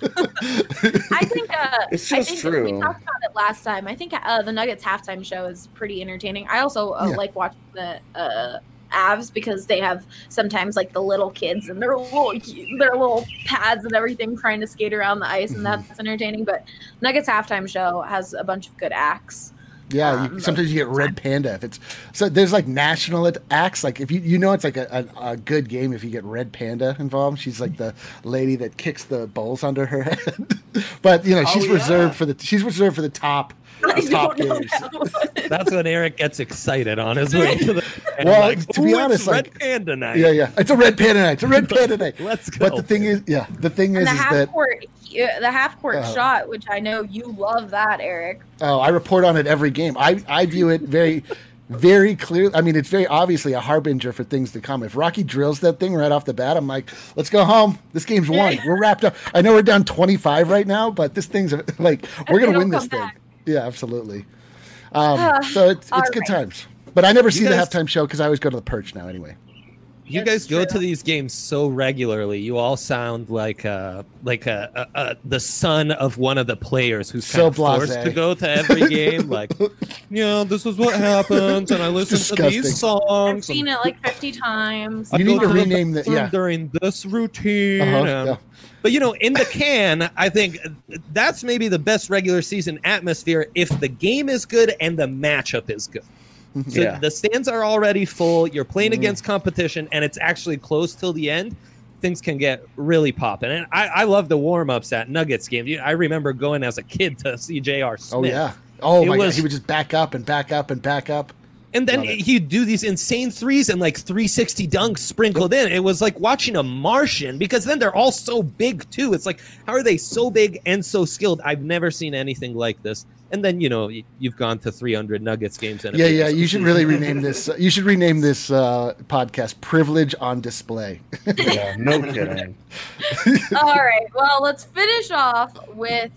I think uh, It's I just think true. we talked about it last time. I think uh, the Nuggets halftime show is pretty entertaining. I also uh, Yeah. like watching the uh, Avs because they have sometimes like the little kids and their little their little pads and everything trying to skate around the ice, and Mhm. that's entertaining. But Nuggets halftime show has a bunch of good acts. Yeah, you, Um, sometimes you get Red Panda if it's so. There's like national at- acts. Like if you you know it's like a, a, a good game if you get Red Panda involved. She's like the lady that kicks the bowls under her head. But you know she's Oh, yeah. reserved for the she's reserved for the top I the top don't know games. that one. That's when Eric gets excited on his way to the. and Well, like, to be "Ooh, honest, it's Red like- Panda night. Yeah, yeah. It's a Red Panda night. It's a Red Panda night. Let's go. But the thing is, yeah, the thing is, And the is half that court, uh, the half court Uh, shot, which I know you love that, Eric. oh, I report on it every game. I I view it very. Very clear. I mean, it's very obviously a harbinger for things to come. If Rocky drills that thing right off the bat, I'm like, let's go home. This game's won. We're wrapped up. I know we're down twenty-five right now, but this thing's like, we're going to It'll win this come thing. back. Yeah, absolutely. Um, Ah, so it's, it's all good right. times. But I never see guys- the halftime show because I always go to the Perch now anyway. You That's guys go true. to these games so regularly. You all sound like uh like a, a, a the son of one of the players who's So kind of forced blasé. to go to every game. Like, yeah, this is what happens, and I listen to Disgusting. these songs. I've seen it like fifty times. I You go need to the rename the- bathroom yeah. during this routine. Uh-huh, and- yeah. But you know, in the can, I think that's maybe the best regular season atmosphere if the game is good and the matchup is good. So Yeah. the stands are already full. You're playing Mm. against competition, and it's actually close till the end. Things can get really popping. And I, I love the warm ups at Nuggets games. You- I remember going as a kid to see J R Smith. Oh, yeah. Oh, It my was- God. He would just back up and back up and back up. And then Love it. he'd do these insane threes and like three sixty dunks sprinkled in. It was like watching a Martian because then they're all so big too. It's like, how are they so big and so skilled? I've never seen anything like this. And then, you know, y- you've gone to three hundred Nuggets games. And it Yeah, was- yeah. You should really rename this. Uh, you should rename this uh, podcast "Privilege on Display." Yeah, no kidding. All right. Well, let's finish off with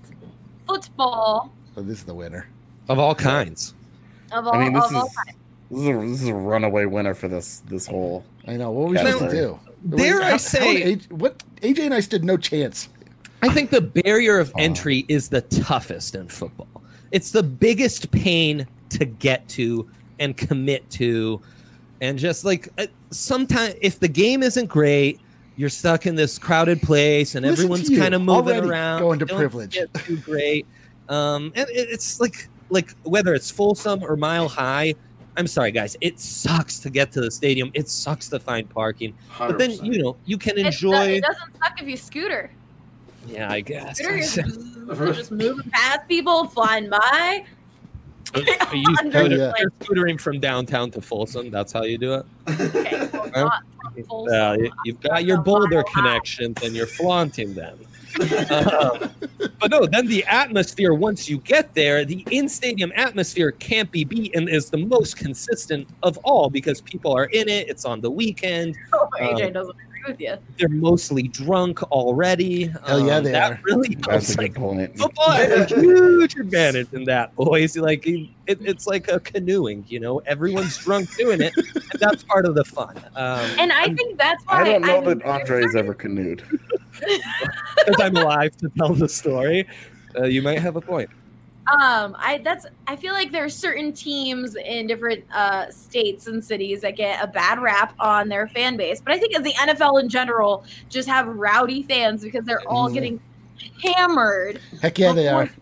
football So this is the winner. Of all kinds. of all, I mean, this of all is time. this is a, this is a runaway winner for this this whole. I know. What were we Now, supposed to do? dare How- I how say- did A- what A J and I stood no chance. I think the barrier of entry is the toughest in football. It's the biggest pain to get to and commit to. And just like sometimes, if the game isn't great, you're stuck in this crowded place and Listen to everyone's you, kind of moving already around. going to Don't privilege. get too great. Um, and it- it's like, like whether it's Folsom or Mile High, I'm sorry, guys. It sucks to get to the stadium. It sucks to find parking. But then, you know, you can It's the- enjoy. it doesn't suck if you scooter. Yeah, I guess. Scooter is you're just moving past people, flying by. Are you, Under Oh, the yeah. you're scootering from downtown to Folsom. That's how you do it. Okay, well, Well, not from Folsom. Yeah, you- you've got your Boulder connections and you're flaunting them. um, but no, then the atmosphere, once you get there, the in-stadium atmosphere can't be beat and is the most consistent of all because people are in it. It's on the weekend. Oh, A J Um, doesn't agree with you. They're mostly drunk already. Hell yeah, Um, they that are. really That's helps. a Like, good point. football has a huge advantage in that, boys. Like it, it's like a canoeing, you know. Everyone's drunk doing it, and that's part of the fun. Um, And I think that's why I don't know I'm- that Andre's ever canoed. because I'm alive to tell the story, uh, you might have a point. Um, I that's I feel like there are certain teams in different uh, states and cities that get a bad rap on their fan base, but I think as the N F L in general just have rowdy fans because they're all Mhm. getting hammered. Heck yeah, they are.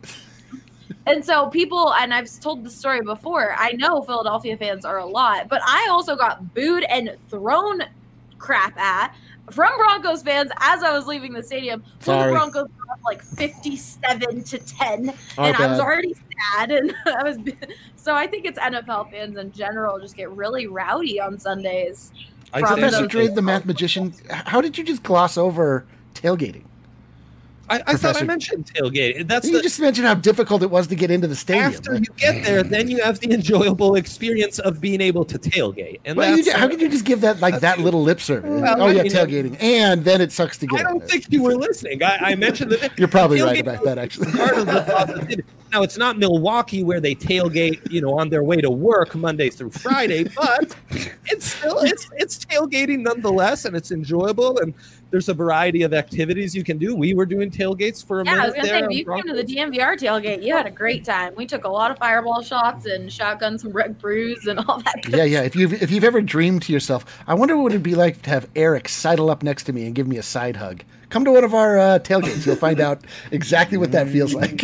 And so people, and I've told the story before, I know Philadelphia fans are a lot, but I also got booed and thrown crap at from Broncos fans as I was leaving the stadium. So the Sorry. Broncos were up like fifty-seven to ten, Our and I was bad. already sad. And I was, so I think it's N F L fans in general just get really rowdy on Sundays. I From say Professor those- that- Dre, the math magician, how did you just gloss over tailgating? I, I thought I Professor- mentioned tailgate. That's You the, just mentioned how difficult it was to get into the stadium. after you get there, then you have the enjoyable experience of being able to tailgate. And Well, you, that's, ju- how could you just give that like that little lip service? Well, oh I yeah, mean, tailgating, and then it sucks to get. I don't in think you were listening. I, I mentioned that You're probably right tailgate about that, actually. part of the positivity. Now it's not Milwaukee where they tailgate, you know, on their way to work Monday through Friday, but it's still it's it's tailgating nonetheless, and it's enjoyable. And there's a variety of activities you can do. We were doing tailgates for a Yeah, I was minute gonna there. say, if on you came to the Broncos. D M V R tailgate, you had a great time. We took a lot of fireball shots and shotgunned some Red Brews and all that. Good Yeah, yeah. If you've if you've ever dreamed to yourself, I wonder what it'd be like to have Eric sidle up next to me and give me a side hug. Come to one of our uh, tailgates. You'll find out exactly what that feels like.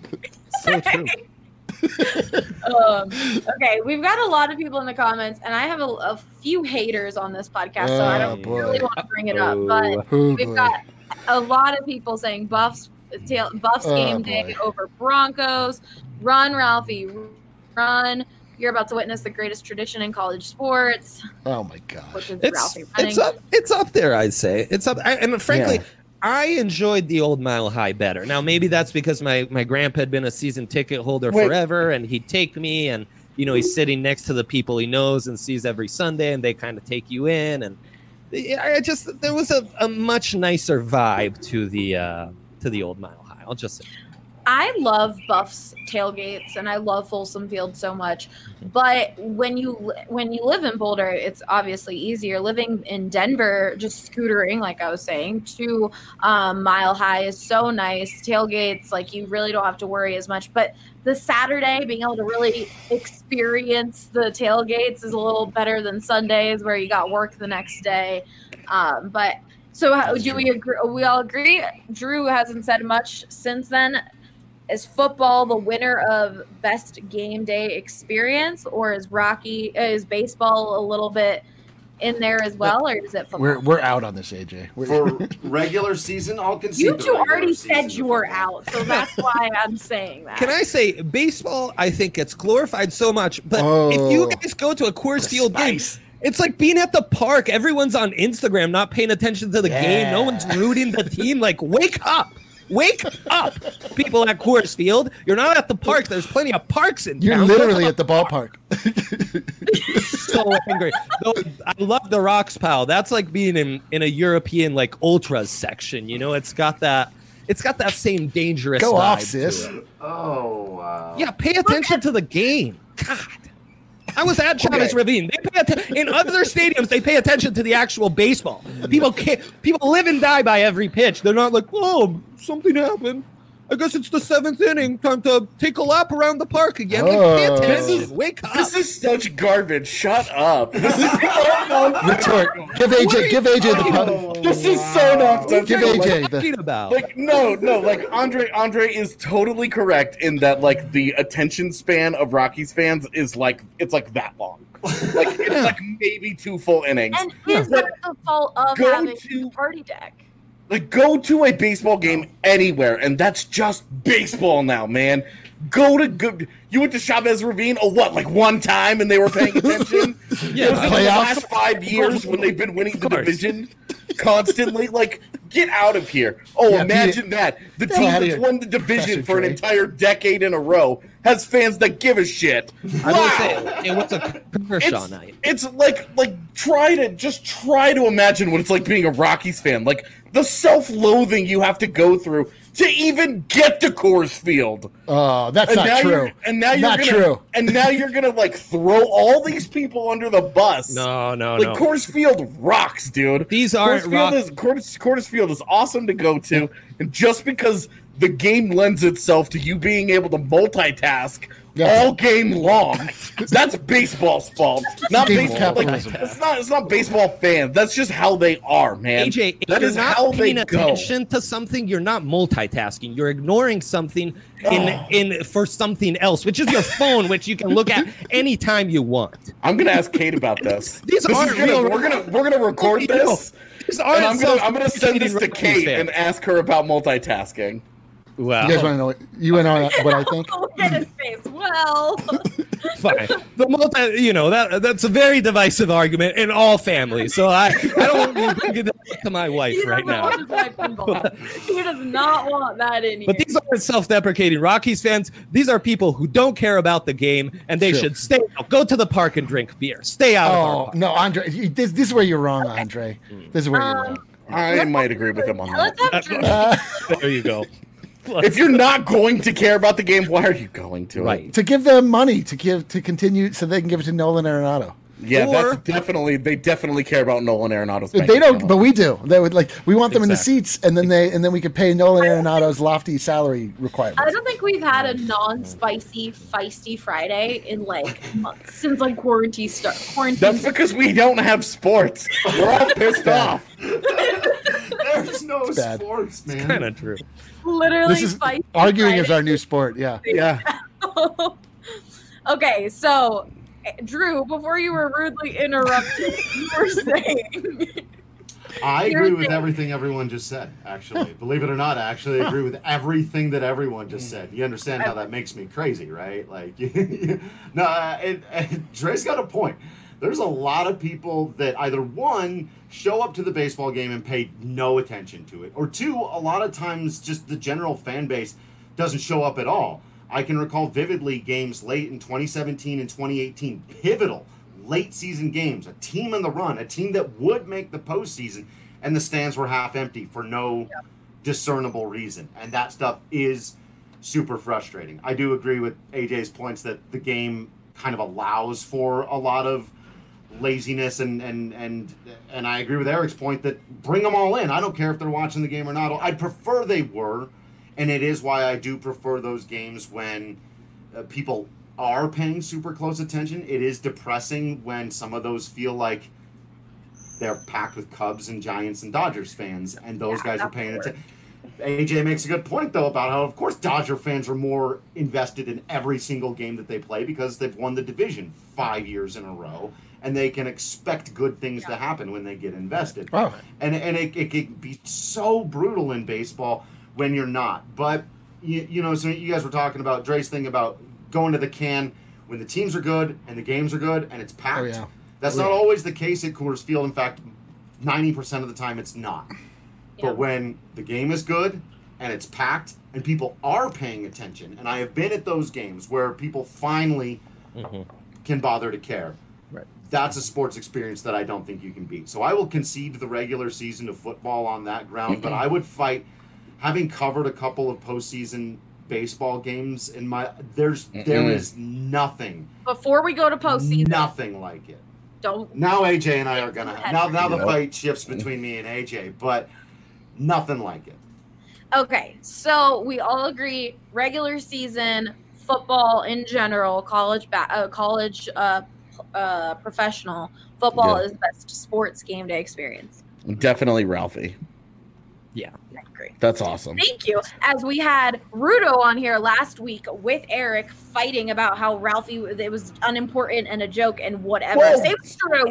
So true. um, okay, we've got a lot of people in the comments, and I have a, a few haters on this podcast, so I Oh, don't boy. really want to bring it up. But Oh, we've boy. got a lot of people saying Buffs, tail, Buffs Oh, game boy. day over Broncos. Run, Ralphie, run! You're about to witness the greatest tradition in college sports, Oh my which gosh. is It's Ralphie running. it's up it's up there. I'd say it's up. I, and frankly, Yeah. I enjoyed the old Mile High better. Now maybe that's because my my grandpa had been a season ticket holder Wait. forever, and he'd take me, and you know he's sitting next to the people he knows and sees every Sunday, and they kind of take you in, and I I just there was a, a much nicer vibe to the uh, to the old Mile High. I'll just say. I love Buffs tailgates and I love Folsom Field so much, but when you li- when you live in Boulder, it's obviously easier. Living in Denver, just scootering, like I was saying, to um, Mile High is so nice. Tailgates, like you really don't have to worry as much. But the Saturday, being able to really experience the tailgates is a little better than Sundays, where you got work the next day. Um, but so, how, do we agree? We all agree. Drew hasn't said much since then. Is football the winner of best game day experience, or is Rocky is baseball a little bit in there as well, or is it football? We're we're out on this, A J. We're, For regular season, I'll concede. you the two regular already season said to you were football. out, so that's why I'm saying that. Can I say baseball? I think gets glorified so much, but if Oh. you guys go to a Coors The Field game, spice. it's like being at the park. Everyone's on Instagram, not paying attention to the game. No Yeah. one's rooting the team. Like, wake up. Wake up, people at Coors Field. You're not at the park. There's plenty of parks in You're town. literally at the ballpark. so angry. Though, I love the Rocks, pal. That's like being in, in a European like ultras section. You know, it's got that. It's got that same dangerous. Go vibe off, to sis. it. Oh wow. Yeah, pay attention to the game. God. I was at Chavez Ravine. They pay atten- in other stadiums. They pay attention to the actual baseball. People can't, people live and die by every pitch. They're not like, oh, something happened. I guess it's the seventh inning. Time to take a lap around the park again. Like, pay Oh. attention. This is- Wake up. This is such garbage. Shut up. This is Retort. Give A J. Give A J the talking pun. This is so nonsensical. Give A J What are you talking the. about? Like no, no, like Andre Andre is totally correct in that like the attention span of Rockies fans is like it's like that long. Like it's like maybe two full innings. And is But that the fault of go having to- a party deck? Like go to a baseball game anywhere and that's just baseball now, man. Go to go, you went to Chavez Ravine oh what like one time and they were paying attention? Yeah, It was in the playoffs. last five years when they've been winning the course. division constantly. Like Get out of here. Oh, Yeah, imagine Pete, that. The get team out of that's here, won the division Professor for an Dre. entire decade in a row has fans that give a shit. I will Wow. say it was a Kershaw It's, night. it's like like try to just try to imagine what it's like being a Rockies fan. Like the self-loathing you have to go through to even get to Coors Field. Oh, that's And not now true. you're and now you're Not gonna true. and now you're gonna like throw all these people under the bus. No, no, Like no. Coors Field rocks, dude. These Coors aren't Field rock- is Coors, Coors Field is awesome to go to, and just because the game lends itself to you being able to multitask Yeah. all game long, that's baseball's fault. Not Game of baseball. Like, capitalism. it's not. It's not baseball fans. That's just how they are, man. A J, if that you're is not how they paying go. attention to something, you're not multitasking. You're ignoring something in Oh. in for something else, which is your phone, which you can look at anytime you want. I'm gonna ask Kate about this. These This is aren't gonna- real- We're gonna we're gonna record this, These and aren't I'm gonna I'm gonna send this to self-deprecating Kate Rockies and ask her about multitasking. Wow. You guys want to know what you want to know what I think? Look at his face. Well, Fine. The multi, you know, that that's a very divisive argument in all families. So I, I don't want to bring it up to my wife he right doesn't now. want his wife involved. He does not want that in here. But these aren't self-deprecating Rockies fans. These are people who don't care about the game, and they True. should stay out. Go to the park and drink beer. Stay out of our Oh park. no, Andre, you- this, this is where you're wrong, Andre. This is where you're Um, wrong. I might agree with him on that. Let's have Drew. Uh, There you go. If you're not going to care about the game, why are you going to? Right. It? to give them money to give to continue so they can give it to Nolan Arenado. Yeah, Or- that's definitely they definitely care about Nolan Arenado's. bank They don't, account. but we do. They would like we want them in the Exactly. seats, and then they and then we could pay Nolan Arenado's lofty salary I requirements. don't think we've had a non-spicy, feisty Friday in like months since like quarantine start. Quarantine. That's because we don't have sports. We're all pissed off. There's no bad. sports, man. Kind of true. Literally This is feisty arguing is Friday. our new sport. Yeah. Yeah. Okay, so Drew, before you were rudely interrupted, you were saying I You're agree with saying- everything everyone just said, actually. Believe it or not, I actually agree with everything that everyone just said. You understand how that makes me crazy, right? Like, no, uh, it, it, Dre's got a point. There's a lot of people that either, one, show up to the baseball game and pay no attention to it, or two, a lot of times just the general fan base doesn't show up at all. I can recall vividly games late in twenty seventeen and twenty eighteen, pivotal late season games, a team on the run, a team that would make the postseason, and the stands were half empty for no Yeah. discernible reason. And that stuff is super frustrating. I do agree with A J's points that the game kind of allows for a lot of laziness, and and and and I agree with Eric's point that bring them all in. I don't care if they're watching the game or not. I'd prefer they were, and it is why I do prefer those games when uh, people are paying super close attention. It is depressing when some of those feel like they're packed with Cubs and Giants and Dodgers fans, and those Yeah, guys are that's paying weird. attention. A J makes a good point, though, about how, of course, Dodger fans are more invested in every single game that they play because they've won the division five years in a row, and they can expect good things to happen when they get invested. Oh, And and it, it can be so brutal in baseball when you're not. But, you, you know, so you guys were talking about Dre's thing about going to the can when the teams are good and the games are good and it's packed. Oh, yeah. That's Oh, not yeah. always the case at Coors Field. In fact, ninety percent of the time it's not. Yeah. But when the game is good and it's packed and people are paying attention, and I have been at those games where people finally Mhm. can bother to care. Right. That's a sports experience that I don't think you can beat. So I will concede the regular season of football on that ground, but I would fight, having covered a couple of postseason baseball games in my there's there Mm-mm. is nothing before we go to postseason, nothing like it. don't. Now A J and I are gonna have now now the Yep. fight shifts between me and A J, but nothing like it. Okay, so we all agree regular season football in general, college ba- uh, college uh, uh, professional football Yeah. is the best sports game day experience. Definitely Ralphie. Yeah. I agree. That's awesome. Thank you. As we had Rudo on here last week with Eric fighting about how Ralphie it was unimportant and a joke and whatever. Whoa. Same is true.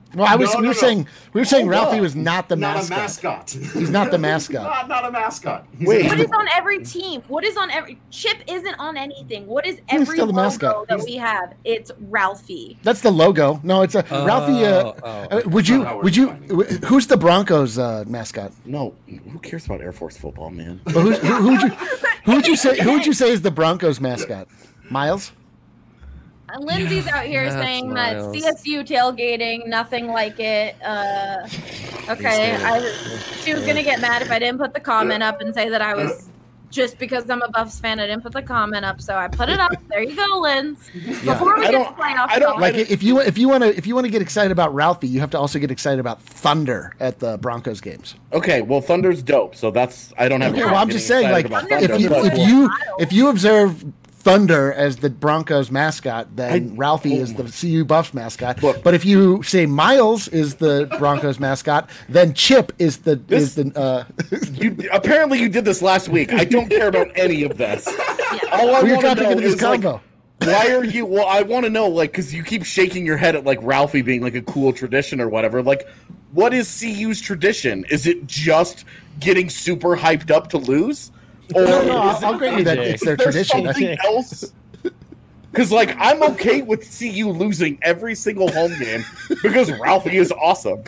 Well, I was. No, we no, were no. saying. We were saying Hold Ralphie up. was not the Not mascot. a mascot. He's not the mascot. not, not a mascot. He's Wait. a- What is on every team? What is on every Chip isn't on anything. What is He's every still the logo mascot. that we have? It's Ralphie. That's the logo. No, it's a Oh, Ralphie. Uh, oh. uh, would you? not how we're Would you? defining w- Who's the Broncos uh, mascot? No, who cares about Air Force football, man? But who's, who, who would you? Who would you say? Who would you say is the Broncos mascot? Miles. Uh, Lindsay's out here That's saying that Miles. C S U tailgating, nothing like it. Uh, okay, I, she was gonna get mad if I didn't put the comment up and say that I was just because I'm a Buffs fan. I didn't put the comment up, so I put it up. There you go, Linz. Before we I get to don't- playoffs, I don't talk, Like if you if you want to if you want to get excited about Ralphie, you have to also get excited about Thunder at the Broncos games. Okay, well, Thunder's dope, so that's I don't have. a Okay, problem well, I'm just getting saying, like excited about if Thunder, you but- if you if you observe Thunder as the Broncos mascot, then I- Ralphie oh is my- the C U Buffs mascot. Look. But if you say Miles is the Broncos mascot, then Chip is the is This- the. Uh, You apparently you did this last week. I don't care about any of this. All I we were want trying to to know get into this is like, combo. why are you? Well, I want to know, like, because you keep shaking your head at like Ralphie being like a cool tradition or whatever. Like, what is C U's tradition? Is it just getting super hyped up to lose? Or No, no, is I'll, it- I'll grant you that Is it's their there tradition. I something think else? Because like I'm okay with C U losing every single home game because Ralphie is awesome.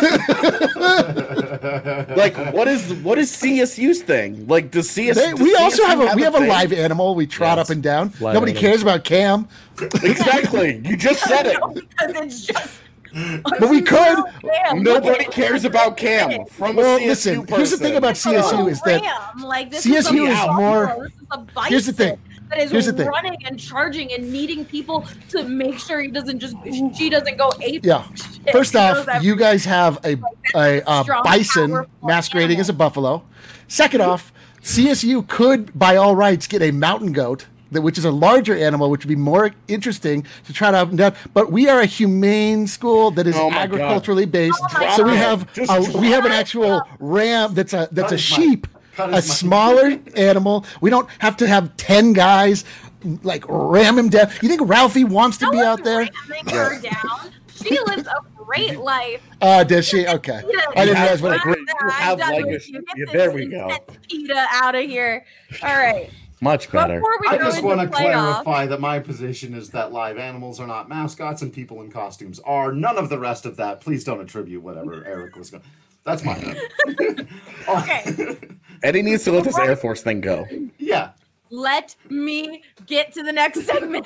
Like, what is what is C S U's thing? Like, does C S? They, does we also C S U have a we have a thing? live animal. We trot Yes. up and down. Live Nobody animal. cares about Cam, Exactly. You just said it. because it's just. but we could. Damn, Nobody cares about Cam. From Well, a C S U listen. Here's the thing person. about C S U is that Ram. Like, this C S U is, is a more- buffalo. This is a bison Here's the thing. that is Here's the thing. running and charging and needing people to make sure he doesn't just she doesn't go ape. Yeah. shit. First She off, goes you guys have a a, a strong, bison powerful masquerading animal. as a buffalo. Second off, C S U could, by all rights, get a mountain goat, that which is a larger animal, which would be more interesting to try to up and down. But we are a humane school that is Oh my God. agriculturally based, Oh my so we God. have Just a, we have an drop actual it. ram that's a that's Cut a his sheep, mic. Cut a his mic. smaller animal. We don't have to have ten guys like ram him down. You think Ralphie wants to No be one's out there? ramming her down. She lives a great life. Uh, does she? Okay. I didn't realize what a great. You have like a- yeah, there we go. PETA out of here. All right. Much better. Before we I go just into want to playoffs, clarify that my position is that live animals are not mascots and people in costumes are. None of the rest of that. Please don't attribute whatever Eric was going. That's mine. Okay. Eddie needs to let this Air Force thing go. Yeah. let me get to the next segment.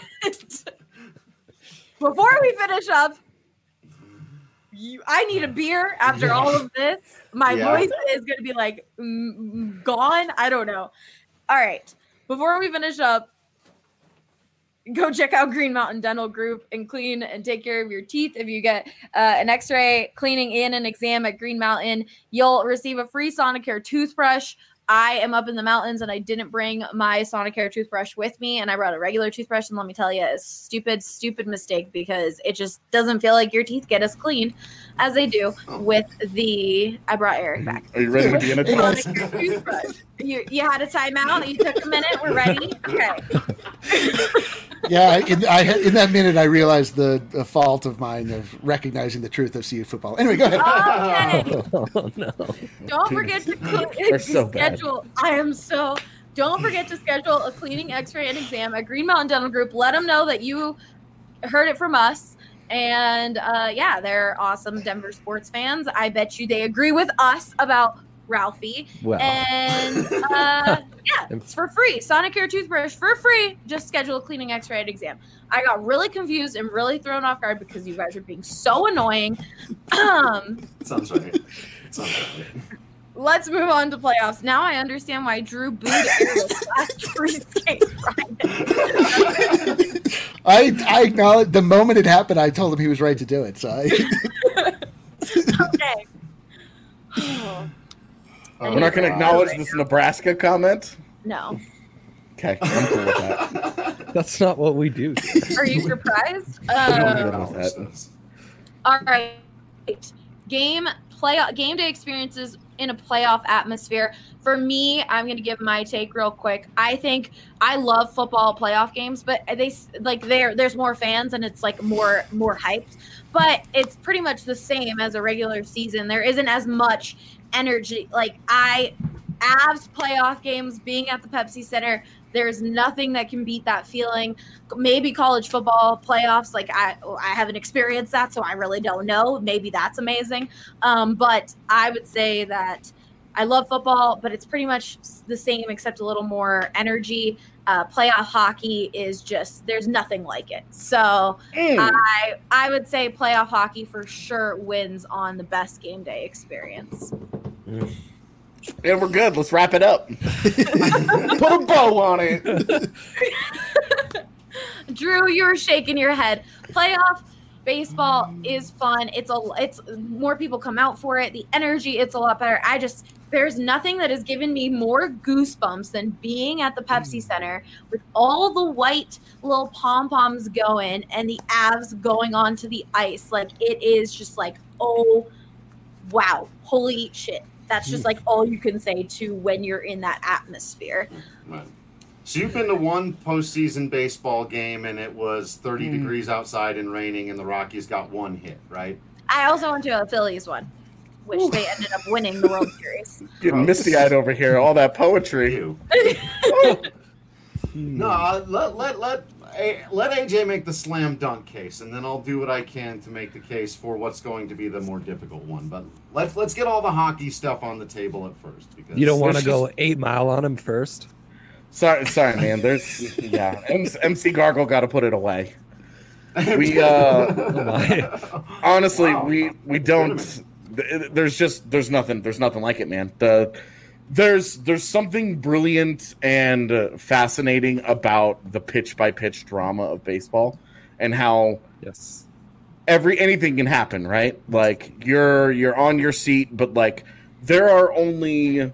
Before we finish up, you, I need a beer after all of this. My Yeah. voice is going to be like mm, mm, gone. I don't know. All right. Before we finish up, go check out Green Mountain Dental Group and clean and take care of your teeth. If you get uh, an x-ray, cleaning, and an exam at Green Mountain, you'll receive a free Sonicare toothbrush. I am up in the mountains and I didn't bring my Sonicare toothbrush with me, and I brought a regular toothbrush, and let me tell you, it's a stupid, stupid mistake because it just doesn't feel like your teeth get as clean as they do with the, I brought Eric back. Are you ready to be in a class? Sonicare toothbrush. You, you had a timeout, you took a minute, we're ready? Okay. Yeah, in, I, in that minute, I realized the, the fault of mine of recognizing the truth of C U football. Anyway, go ahead. Okay. Oh no. Don't forget to, cl- They're to so bad. schedule. I am so. Don't forget to schedule a cleaning, X-ray, and exam at Green Mountain Dental Group. Let them know that you heard it from us. And uh, yeah, they're awesome Denver sports fans. I bet you they agree with us about Ralphie. Well. And uh, yeah, it's for free. Sonicare toothbrush for free. Just schedule a cleaning, X-ray, and exam. I got really confused and really thrown off guard because you guys are being so annoying. Um. Sounds right. Sounds right. Let's move on to playoffs. Now I understand why Drew booed Airless last week's game Friday. I, I acknowledge the moment it happened, I told him he was right to do it. So I, Okay. Oh, We're not going to God. acknowledge this Nebraska comment. No. Okay, I'm cool with that. That's not what we do. Are you surprised? I'm Uh, good with that. all right. Game play game day experiences in a playoff atmosphere. For me, I'm going to give my take real quick. I think I love football playoff games, but they like there there's more fans and it's like more more hyped. But it's pretty much the same as a regular season. There isn't as much energy. Like I Avs playoff games being at the Pepsi Center, there's nothing that can beat that feeling. Maybe college football playoffs, like I I haven't experienced that, so I really don't know. Maybe that's amazing. Um, but I would say that I love football, but it's pretty much the same except a little more energy. Uh, playoff hockey is just, there's nothing like it. So mm. I I would say playoff hockey for sure wins on the best game day experience. Mm. And we're good. Let's wrap it up. Put a bow on it. Drew, you're shaking your head. Playoff baseball is fun. It's a it's more people come out for it. The energy, it's a lot better. I just there's nothing that has given me more goosebumps than being at the Pepsi Center with all the white little pom-poms going and the Avs going onto the ice. Like it is just like, oh wow, holy shit. That's just like all you can say to when you're in that atmosphere. Right. So you've been to one postseason baseball game and it was thirty mm. degrees outside and raining and the Rockies got one hit, right? I also went to a Phillies one, which Ooh. they ended up winning the World Series. Getting misty-eyed over here, all that poetry. no, uh, let, let, let, let A J make the slam dunk case, and then I'll do what I can to make the case for what's going to be the more difficult one. But let's let's get all the hockey stuff on the table at first. Because you don't want to go eight mile on him first. Sorry, sorry, man. There's yeah. M C Gargle got to put it away. We uh, oh honestly, wow. we we don't. There's just there's nothing there's nothing like it, man. The There's there's something brilliant and uh, fascinating about the pitch by pitch drama of baseball, and how yes, every anything can happen, right? Like you're you're on your seat, but like there are only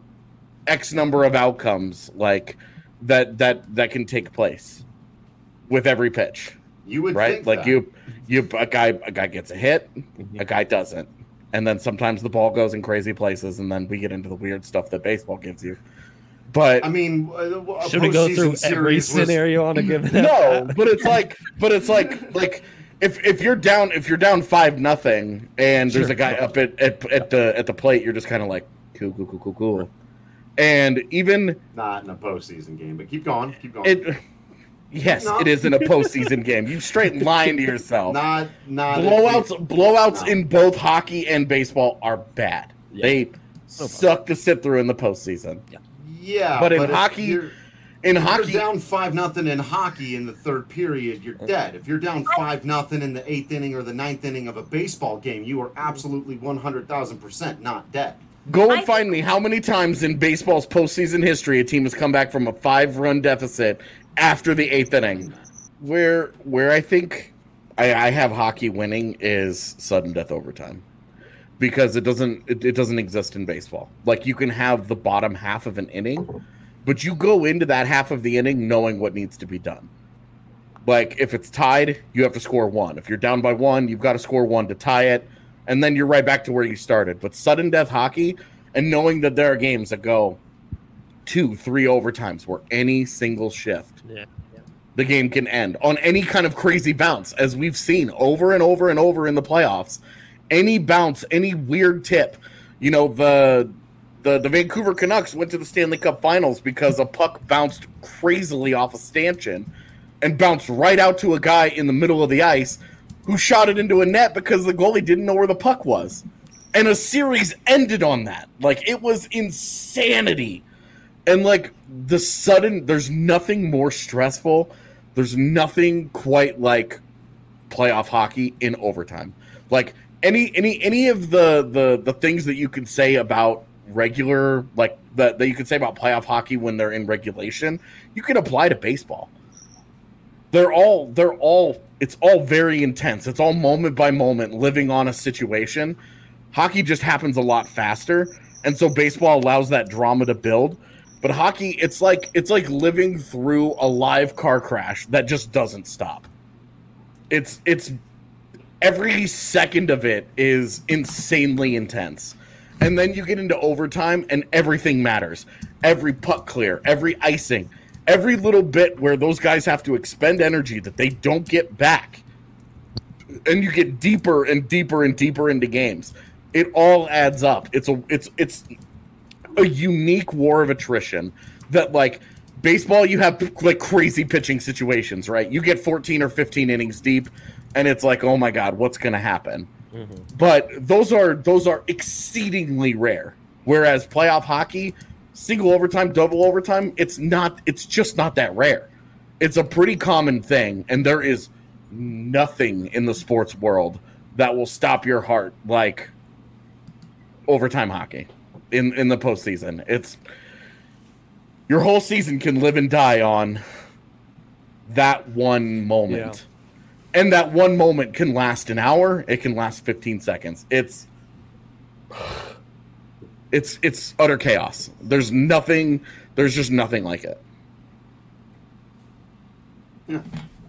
X number of outcomes like that that that can take place with every pitch. You would right think like that. you you a guy a guy gets a hit, a guy doesn't. And then sometimes the ball goes in crazy places, and then we get into the weird stuff that baseball gives you. But I mean, should we go through every was... scenario on a given? No, but it's like, but it's like, like if if you're down, if you're down five nothing, and there's sure. a guy up at, at at the at the plate, you're just kind of like, cool, cool, cool, cool, cool. And even not in a postseason game, but keep going, keep going. It, Yes, no. It is in a postseason game. You straight lying to yourself. Not, not blowouts. It, blowouts no. in both hockey and baseball are bad. Yeah. They no suck to sit through in the postseason. Yeah, yeah. But in but hockey, in if hockey, you're down five nothing in hockey in the third period, you're dead. If you're down five nothing in the eighth inning or the ninth inning of a baseball game, you are absolutely one hundred thousand percent not dead. Go and find me how many times in baseball's postseason history a team has come back from a five-run deficit after the eighth inning. Where where I think I, I have hockey winning is sudden death overtime, because it doesn't it, it doesn't exist in baseball. Like you can have the bottom half of an inning, but you go into that half of the inning knowing what needs to be done. Like if it's tied, you have to score one. If you're down by one, you've got to score one to tie it, and then you're right back to where you started. But sudden death hockey, and knowing that there are games that go two, three overtimes where any single shift, yeah, yeah. the game can end on any kind of crazy bounce, as we've seen over and over and over in the playoffs. Any bounce, any weird tip. You know, the the the Vancouver Canucks went to the Stanley Cup Finals because a puck bounced crazily off a stanchion and bounced right out to a guy in the middle of the ice who shot it into a net because the goalie didn't know where the puck was. And a series ended on that. Like, it was insanity. And, like, the sudden, there's nothing more stressful. There's nothing quite like playoff hockey in overtime. Like, any any any of the, the, the things that you could say about regular, like, that, that you could say about playoff hockey when they're in regulation, you can apply to baseball. They're all, they're all, it's all very intense. It's all moment by moment, living on a situation. Hockey just happens a lot faster, and so baseball allows that drama to build. But hockey, it's like it's like living through a live car crash that just doesn't stop. It's it's every second of it is insanely intense. And then you get into overtime, and everything matters. Every puck clear, every icing, every little bit where those guys have to expend energy that they don't get back. And you get deeper and deeper and deeper into games. It all adds up. It's a it's it's a unique war of attrition that, like, baseball, you have like crazy pitching situations, right? You get fourteen or fifteen innings deep, and it's like, oh my God, what's going to happen? Mm-hmm. But those are those are exceedingly rare. Whereas playoff hockey, single overtime, double overtime, it's not. It's just not that rare. It's a pretty common thing, and there is nothing in the sports world that will stop your heart like overtime hockey in in the postseason. It's your whole season can live and die on that one moment. Yeah. And that one moment can last an hour. It can last fifteen seconds. It's it's it's utter chaos. There's nothing. There's just nothing like it. Yeah.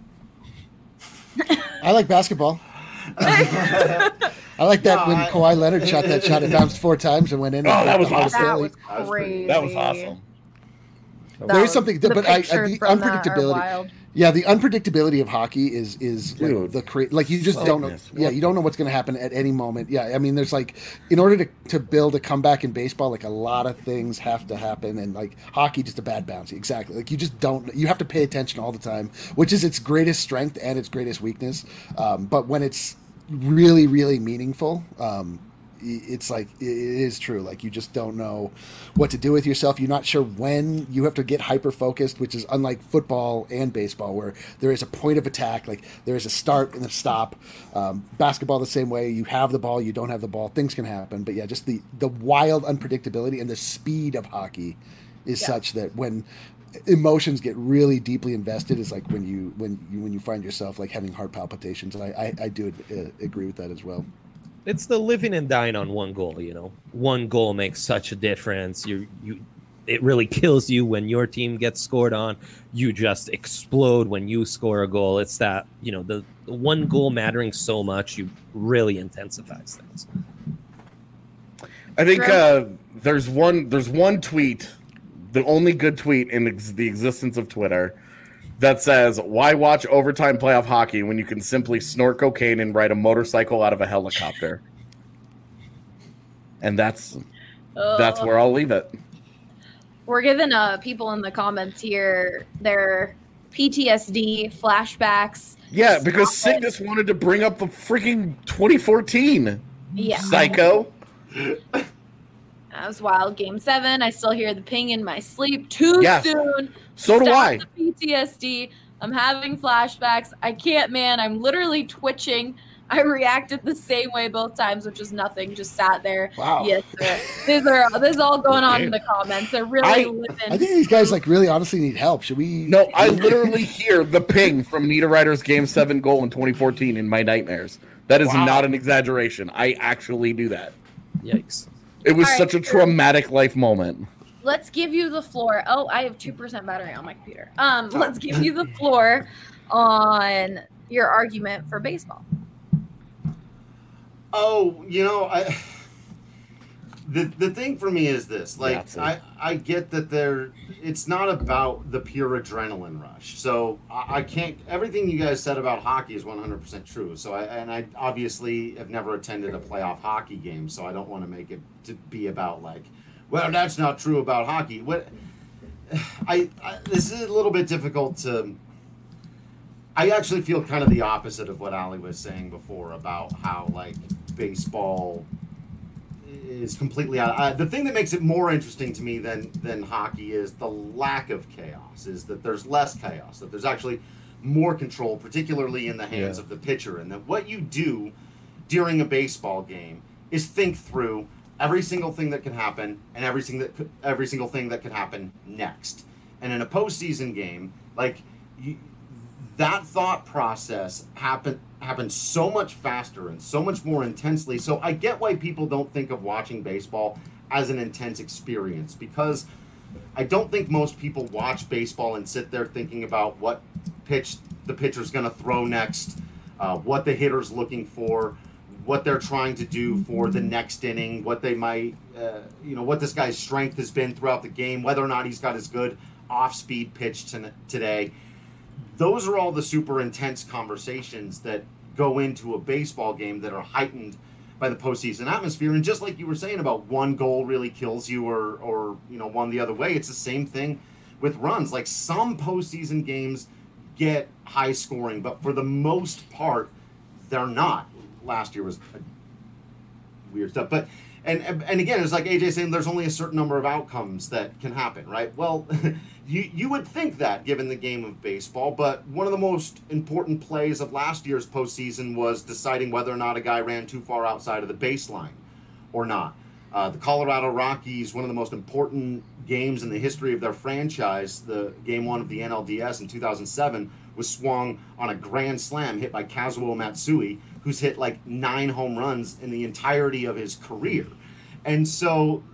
I like basketball. I like that no, when I, Kawhi Leonard shot that shot. It bounced four times and went in. Oh, that was awesome. That was crazy. That was awesome. There is something, the but I, the unpredictability. Yeah, the unpredictability of hockey is is Dude, like the cra- like you just don't know. What? Yeah, you don't know what's going to happen at any moment. Yeah, I mean, there's like in order to, to build a comeback in baseball, like a lot of things have to happen, and like hockey, just a bad bouncy. Exactly, like you just don't. You have to pay attention all the time, which is its greatest strength and its greatest weakness. Um, but when it's really, really meaningful. Um, It's like it is true. Like you just don't know what to do with yourself. You're not sure when. You have to get hyper focused, which is unlike football and baseball, where there is a point of attack. Like there is a start and a stop. Um, basketball the same way. You have the ball, you don't have the ball. Things can happen, but yeah, just the the wild unpredictability and the speed of hockey is yeah. such that when emotions get really deeply invested, is like when you when you when you find yourself like having heart palpitations. And I I, I do uh, agree with that as well. It's the living and dying on one goal, you know. One goal makes such a difference. You you it really kills you when your team gets scored on. You just explode when you score a goal. It's that, you know, the, the one goal mattering so much, you really intensifies things. I think uh, there's one there's one tweet, the only good tweet in ex- the existence of Twitter, that says, why watch overtime playoff hockey when you can simply snort cocaine and ride a motorcycle out of a helicopter? And that's uh, that's where I'll leave it. We're giving uh, people in the comments here their P T S D flashbacks. Yeah, because Cygnus wanted to bring up the freaking twenty fourteen. Yeah. Psycho. That was wild. Game seven. I still hear the ping in my sleep. Too yes. soon. So do Stop I. The P T S D. I'm having flashbacks. I can't, man. I'm literally twitching. I reacted the same way both times, which is nothing. Just sat there. Wow. Yes, sir. These are this is all going on in the comments. They're really I, living. I think these guys like really honestly need help. Should we? No, I literally hear the ping from Nita Ryder's Game Seven goal in twenty fourteen in my nightmares. That is wow. not an exaggeration. I actually do that. Yikes. It was All such right, a traumatic life moment. Let's give you the floor. Oh, I have two percent battery on my computer. Um, let's give you the floor on your argument for baseball. Oh, you know, I the the thing for me is this. Like, yeah, I, I get that there it's not about the pure adrenaline rush. So I, I can't everything you guys said about hockey is one hundred percent true. So I and I obviously have never attended a playoff hockey game, so I don't want to make it to be about like, well, that's not true about hockey. What I, I this is a little bit difficult to I actually feel kind of the opposite of what Ali was saying before about how like baseball is completely out. Uh, the thing that makes it more interesting to me than than hockey is the lack of chaos. Is that there's less chaos. That there's actually more control, particularly in the hands yeah. of the pitcher, and that what you do during a baseball game is think through every single thing that can happen and every single every single thing that can happen next. And in a postseason game, like you, that thought process happen happens so much faster and so much more intensely. So I get why people don't think of watching baseball as an intense experience, because I don't think most people watch baseball and sit there thinking about what pitch the pitcher's going to throw next, uh, what the hitter's looking for, what they're trying to do for the next inning, what they might, uh, you know, what this guy's strength has been throughout the game, whether or not he's got his good off-speed pitch to, today. Those are all the super intense conversations that go into a baseball game that are heightened by the postseason atmosphere. And just like you were saying about one goal really kills you, or, or you know, one the other way, it's the same thing with runs. Like, some postseason games get high scoring, but for the most part, they're not. Last year was weird stuff, but and and again, it's like A J saying there's only a certain number of outcomes that can happen, right? Well, you you would think that given the game of baseball, but one of the most important plays of last year's postseason was deciding whether or not a guy ran too far outside of the baseline or not. Uh, the Colorado Rockies, one of the most important games in the history of their franchise, the game one of the N L D S in two thousand seven, was swung on a grand slam hit by Kazuo Matsui, who's hit like nine home runs in the entirety of his career. And so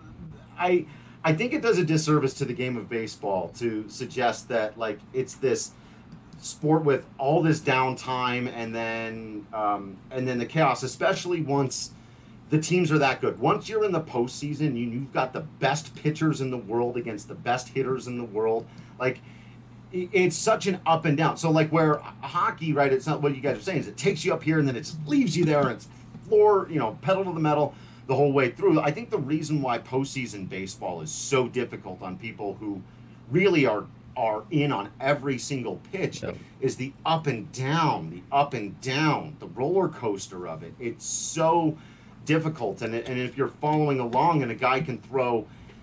I I think it does a disservice to the game of baseball to suggest that like it's this sport with all this downtime and then um, and then the chaos, especially once the teams are that good. Once you're in the postseason, you, you've got the best pitchers in the world against the best hitters in the world. Like, it's such an up and down. So, like, where hockey, right, it's not what you guys are saying, is it takes you up here and then it just leaves you there and it's floor, you know, pedal to the metal the whole way through. I think the reason why postseason baseball is so difficult on people who really are are in on every single pitch yep. is the up and down, the up and down, the roller coaster of it. It's so difficult. And, and if you're following along and a guy can throw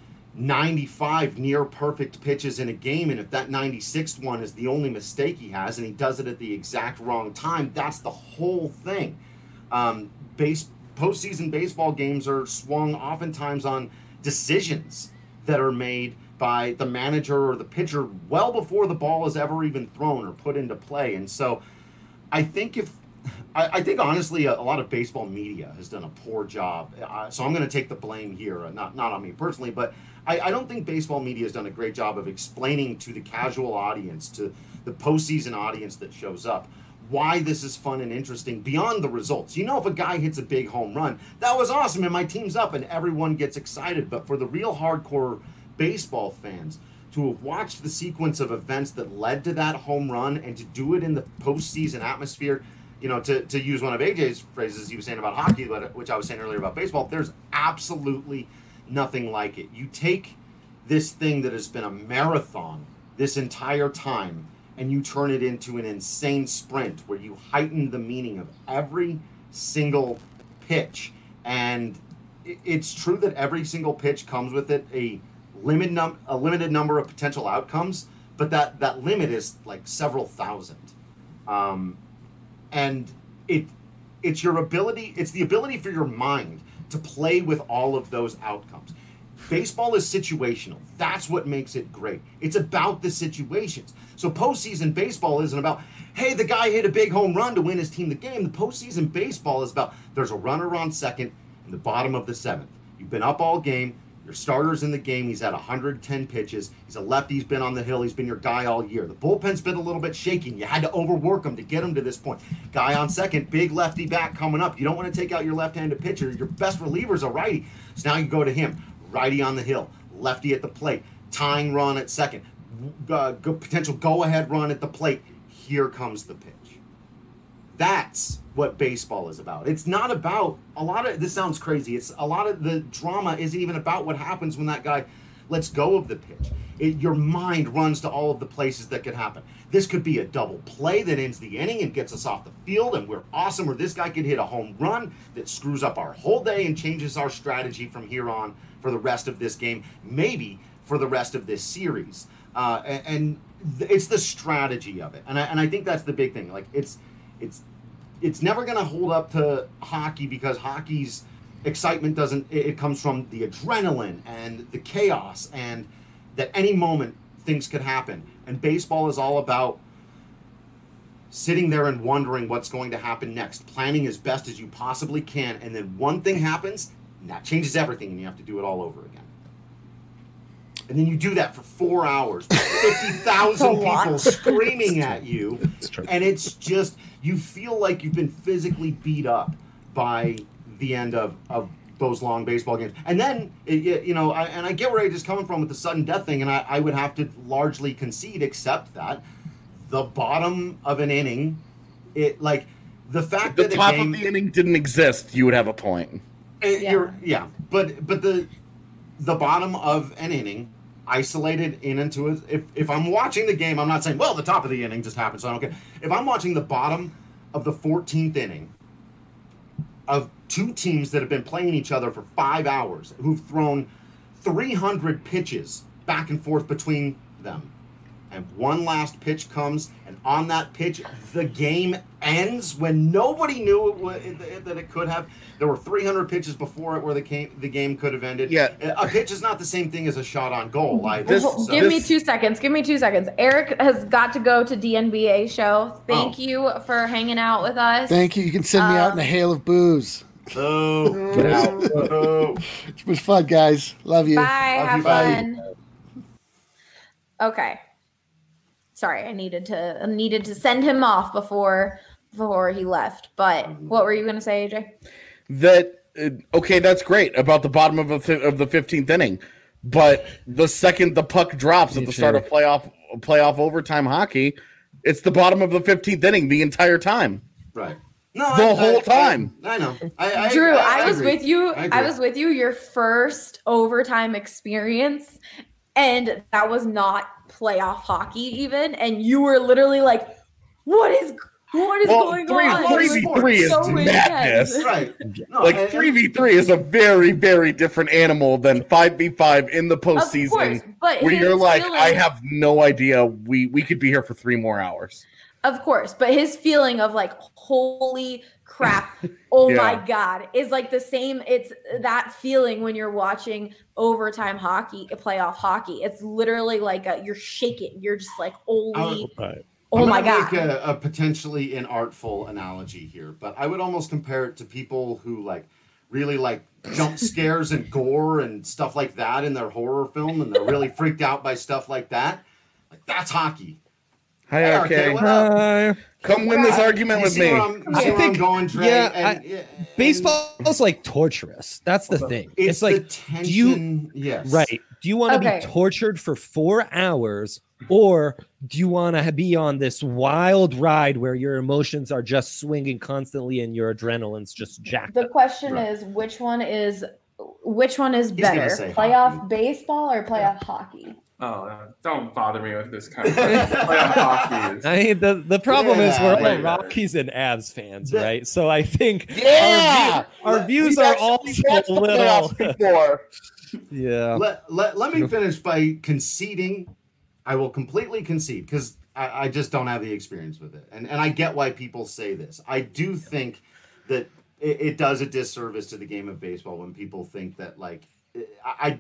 ninety-five near perfect pitches in a game, and if that ninety-sixth one is the only mistake he has and he does it at the exact wrong time, that's the whole thing. Um, base postseason baseball games are swung oftentimes on decisions that are made by the manager or the pitcher well before the ball is ever even thrown or put into play. And so I think if I, I think honestly a, a lot of baseball media has done a poor job. Uh, so I'm going to take the blame here, uh, not not on me personally, but I, I don't think baseball media has done a great job of explaining to the casual audience, to the postseason audience that shows up, why this is fun and interesting beyond the results. You know, if a guy hits a big home run, that was awesome and my team's up and everyone gets excited. But for the real hardcore baseball fans to have watched the sequence of events that led to that home run and to do it in the postseason atmosphere, you know, to, to use one of A J's phrases he was saying about hockey, which I was saying earlier about baseball, there's absolutely nothing like it. You take this thing that has been a marathon this entire time and you turn it into an insane sprint where you heighten the meaning of every single pitch. And it's true that every single pitch comes with it a limit num- a limited number of potential outcomes, but that, that limit is like several thousand. Um, and it it's your ability, it's the ability for your mind to play with all of those outcomes. Baseball is situational. That's what makes it great. It's about the situations. So postseason baseball isn't about, hey, the guy hit a big home run to win his team the game. The postseason baseball is about, there's a runner on second in the bottom of the seventh. You've been up all game. Your starter's in the game. He's at one hundred ten pitches. He's a lefty. He's been on the hill. He's been your guy all year. The bullpen's been a little bit shaky. You had to overwork him to get him to this point. Guy on second, big lefty bat coming up. You don't want to take out your left-handed pitcher. Your best reliever's a righty. So now you go to him. Righty on the hill. Lefty at the plate. Tying run at second. Uh, go, potential go-ahead run at the plate. Here comes the pitch. That's what baseball is about. It's not about a lot of, this sounds crazy, it's a lot of the drama isn't even about what happens when that guy lets go of the pitch. It, your mind runs to all of the places that could happen. This could be a double play that ends the inning and gets us off the field and we're awesome, or this guy could hit a home run that screws up our whole day and changes our strategy from here on for the rest of this game, maybe for the rest of this series. Uh, and and th- it's the strategy of it. And I, and I think that's the big thing. Like it's, it's, It's never going to hold up to hockey because hockey's excitement doesn't, it, it comes from the adrenaline and the chaos and that any moment things could happen. And baseball is all about sitting there and wondering what's going to happen next, planning as best as you possibly can. And then one thing happens and that changes everything and you have to do it all over again. And then you do that for four hours, fifty thousand people screaming at you. It's true. And it's just, you feel like you've been physically beat up by the end of, of those long baseball games. And then, it, you know, I, and I get where Age is coming from with the sudden death thing, and I, I would have to largely concede, except that the bottom of an inning, it like the fact the that the top game, of the inning didn't exist, you would have a point. It, Yeah. You're, yeah, but but the the bottom of an inning, isolated in into it. If if I'm watching the game, I'm not saying, well, the top of the inning just happened, so I don't care. If I'm watching the bottom of the fourteenth inning of two teams that have been playing each other for five hours, who've thrown three hundred pitches back and forth between them, and one last pitch comes, and on that pitch, the game ends when nobody knew it w- that it could have. There were three hundred pitches before it where the game, the game could have ended. Yeah. A pitch is not the same thing as a shot on goal. Either, This- Well, so- give me this- two seconds. Give me two seconds. Eric has got to go to D N B A show. Thank Oh. you for hanging out with us. Thank you. You can send me out in a Um, hail of booze. Oh, get out. Oh. It was fun, guys. Love you. Bye. Love Have you, bye. fun. Okay. Sorry, I needed to I needed to send him off before before he left. But what were you going to say, A J? That uh, okay, that's great about the bottom of, a fi- of the fifteenth inning, but the second the puck drops at the start of playoff playoff overtime hockey, it's the bottom of the fifteenth inning the entire time. Right. No, The I- whole I- time. I, I know. I, I, Drew, I, I, I was agree. with you. I I, agree. was with you your first overtime experience, and that was not playoff hockey even, and you were literally like, "What is what is Well, going three- on?" three It was v three is so madness. intense. Right. No, Like and- three v three is a very very different animal than five v five in the Of course, postseason, but where his you're like, feeling- I have no idea. We we could be here for three more hours. Of course, but his feeling of like, holy crap, oh Yeah. my God, is like the same. It's that feeling when you're watching overtime hockey, playoff hockey. It's literally like a, you're shaking. You're just like, holy, oh I'm my gonna God. Make a, a potentially inartful analogy here, but I would almost compare it to people who like really like jump scares and gore and stuff like that in their horror film, and they're really freaked out by stuff like that. Like that's hockey. Hi, Hey, R R K, K. what up? Hi. Come win this argument You with see me. where I'm, you see I where I'm think- going, Trey? yeah, and, I- and- Baseball is like torturous. That's the thing. It's, It's, like, the do you tension. Yes. right? Do you want to Okay. be tortured for four hours, or do you want to be on this wild ride where your emotions are just swinging constantly and your adrenaline's just jacked The up? question Right. is, which one is which one is He's gonna better, say playoff hockey. baseball or playoff hockey? Oh, uh, don't bother me with this kind of playoff hockey. Is, I mean, the, the problem is Yeah, we're all yeah. Rockies and Avs fans, The- right? So I think Yeah! our, view- our views We've are actually also watched a the little, playoffs before. yeah. Let, let, let me finish by conceding. I will completely concede because I, I just don't have the experience with it. And, and I get why people say this. I do think that it, it does a disservice to the game of baseball when people think that, like, I,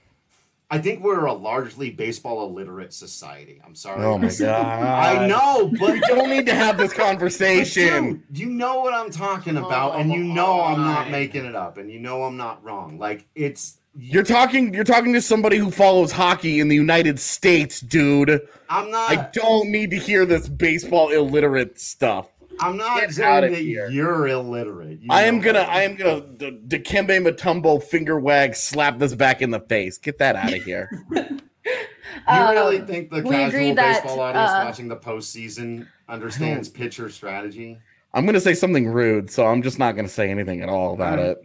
I think we're a largely baseball illiterate society. I'm sorry. Oh my god! I know, but We don't need to have this conversation. Dude, you know what I'm talking about, and you know I'm not making it up, and you know I'm not wrong. Like it's You're talking. You're talking to somebody who follows hockey in the United States, dude. I'm not. I don't need to hear this baseball illiterate stuff. I'm not Get saying outta that here. you're illiterate. You I am know gonna. that. I am gonna. D- Dikembe Mutombo finger wag slap this back in the face. Get that out of here. You Um, really think the we casual agree that, baseball audience uh, watching the postseason understands pitcher strategy? I'm gonna say something rude, so I'm just not gonna say anything at all about it.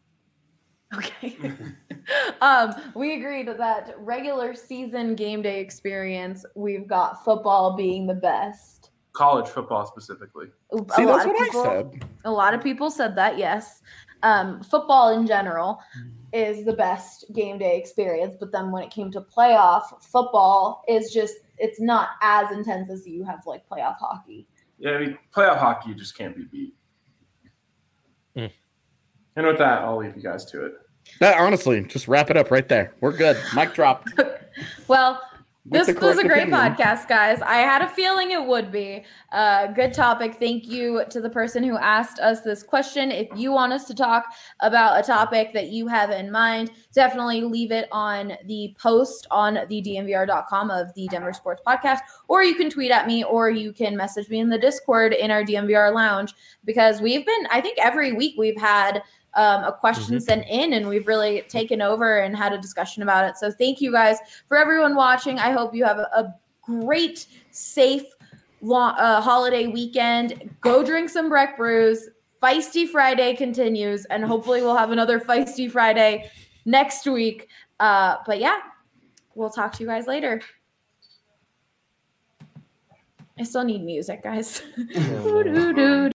Okay. um, we agreed that regular season game day experience, we've got football being the best. college football specifically. A See, lot that's of what people, I said. A lot of people said that, yes. Um, football in general is the best game day experience, but then when it came to playoff, football is just, it's not as intense as you have like playoff hockey. Yeah, I mean, playoff hockey you just can't be beat. Mm. And with that, I'll leave you guys to it. That honestly, just wrap it up right there. We're good. Mic drop. Well, This the was correct a great opinion. podcast, guys. I had a feeling it would be. Uh, good topic. Thank you to the person who asked us this question. If you want us to talk about a topic that you have in mind, definitely leave it on the post on the D N V R dot com of the Denver Sports Podcast, or you can tweet at me, or you can message me in the Discord in our D N V R lounge, because we've been, I think every week we've had Um, a question Mhm. sent in, and we've really taken over and had a discussion about it. So thank you guys for everyone watching. I hope you have a, a great, safe long, uh, holiday weekend. Go drink some Breck Brews. Feisty Friday continues, and hopefully we'll have another Feisty Friday next week. Uh, but yeah, we'll talk to you guys later. I still need music, guys. Oh, no. Doo-doo-doo.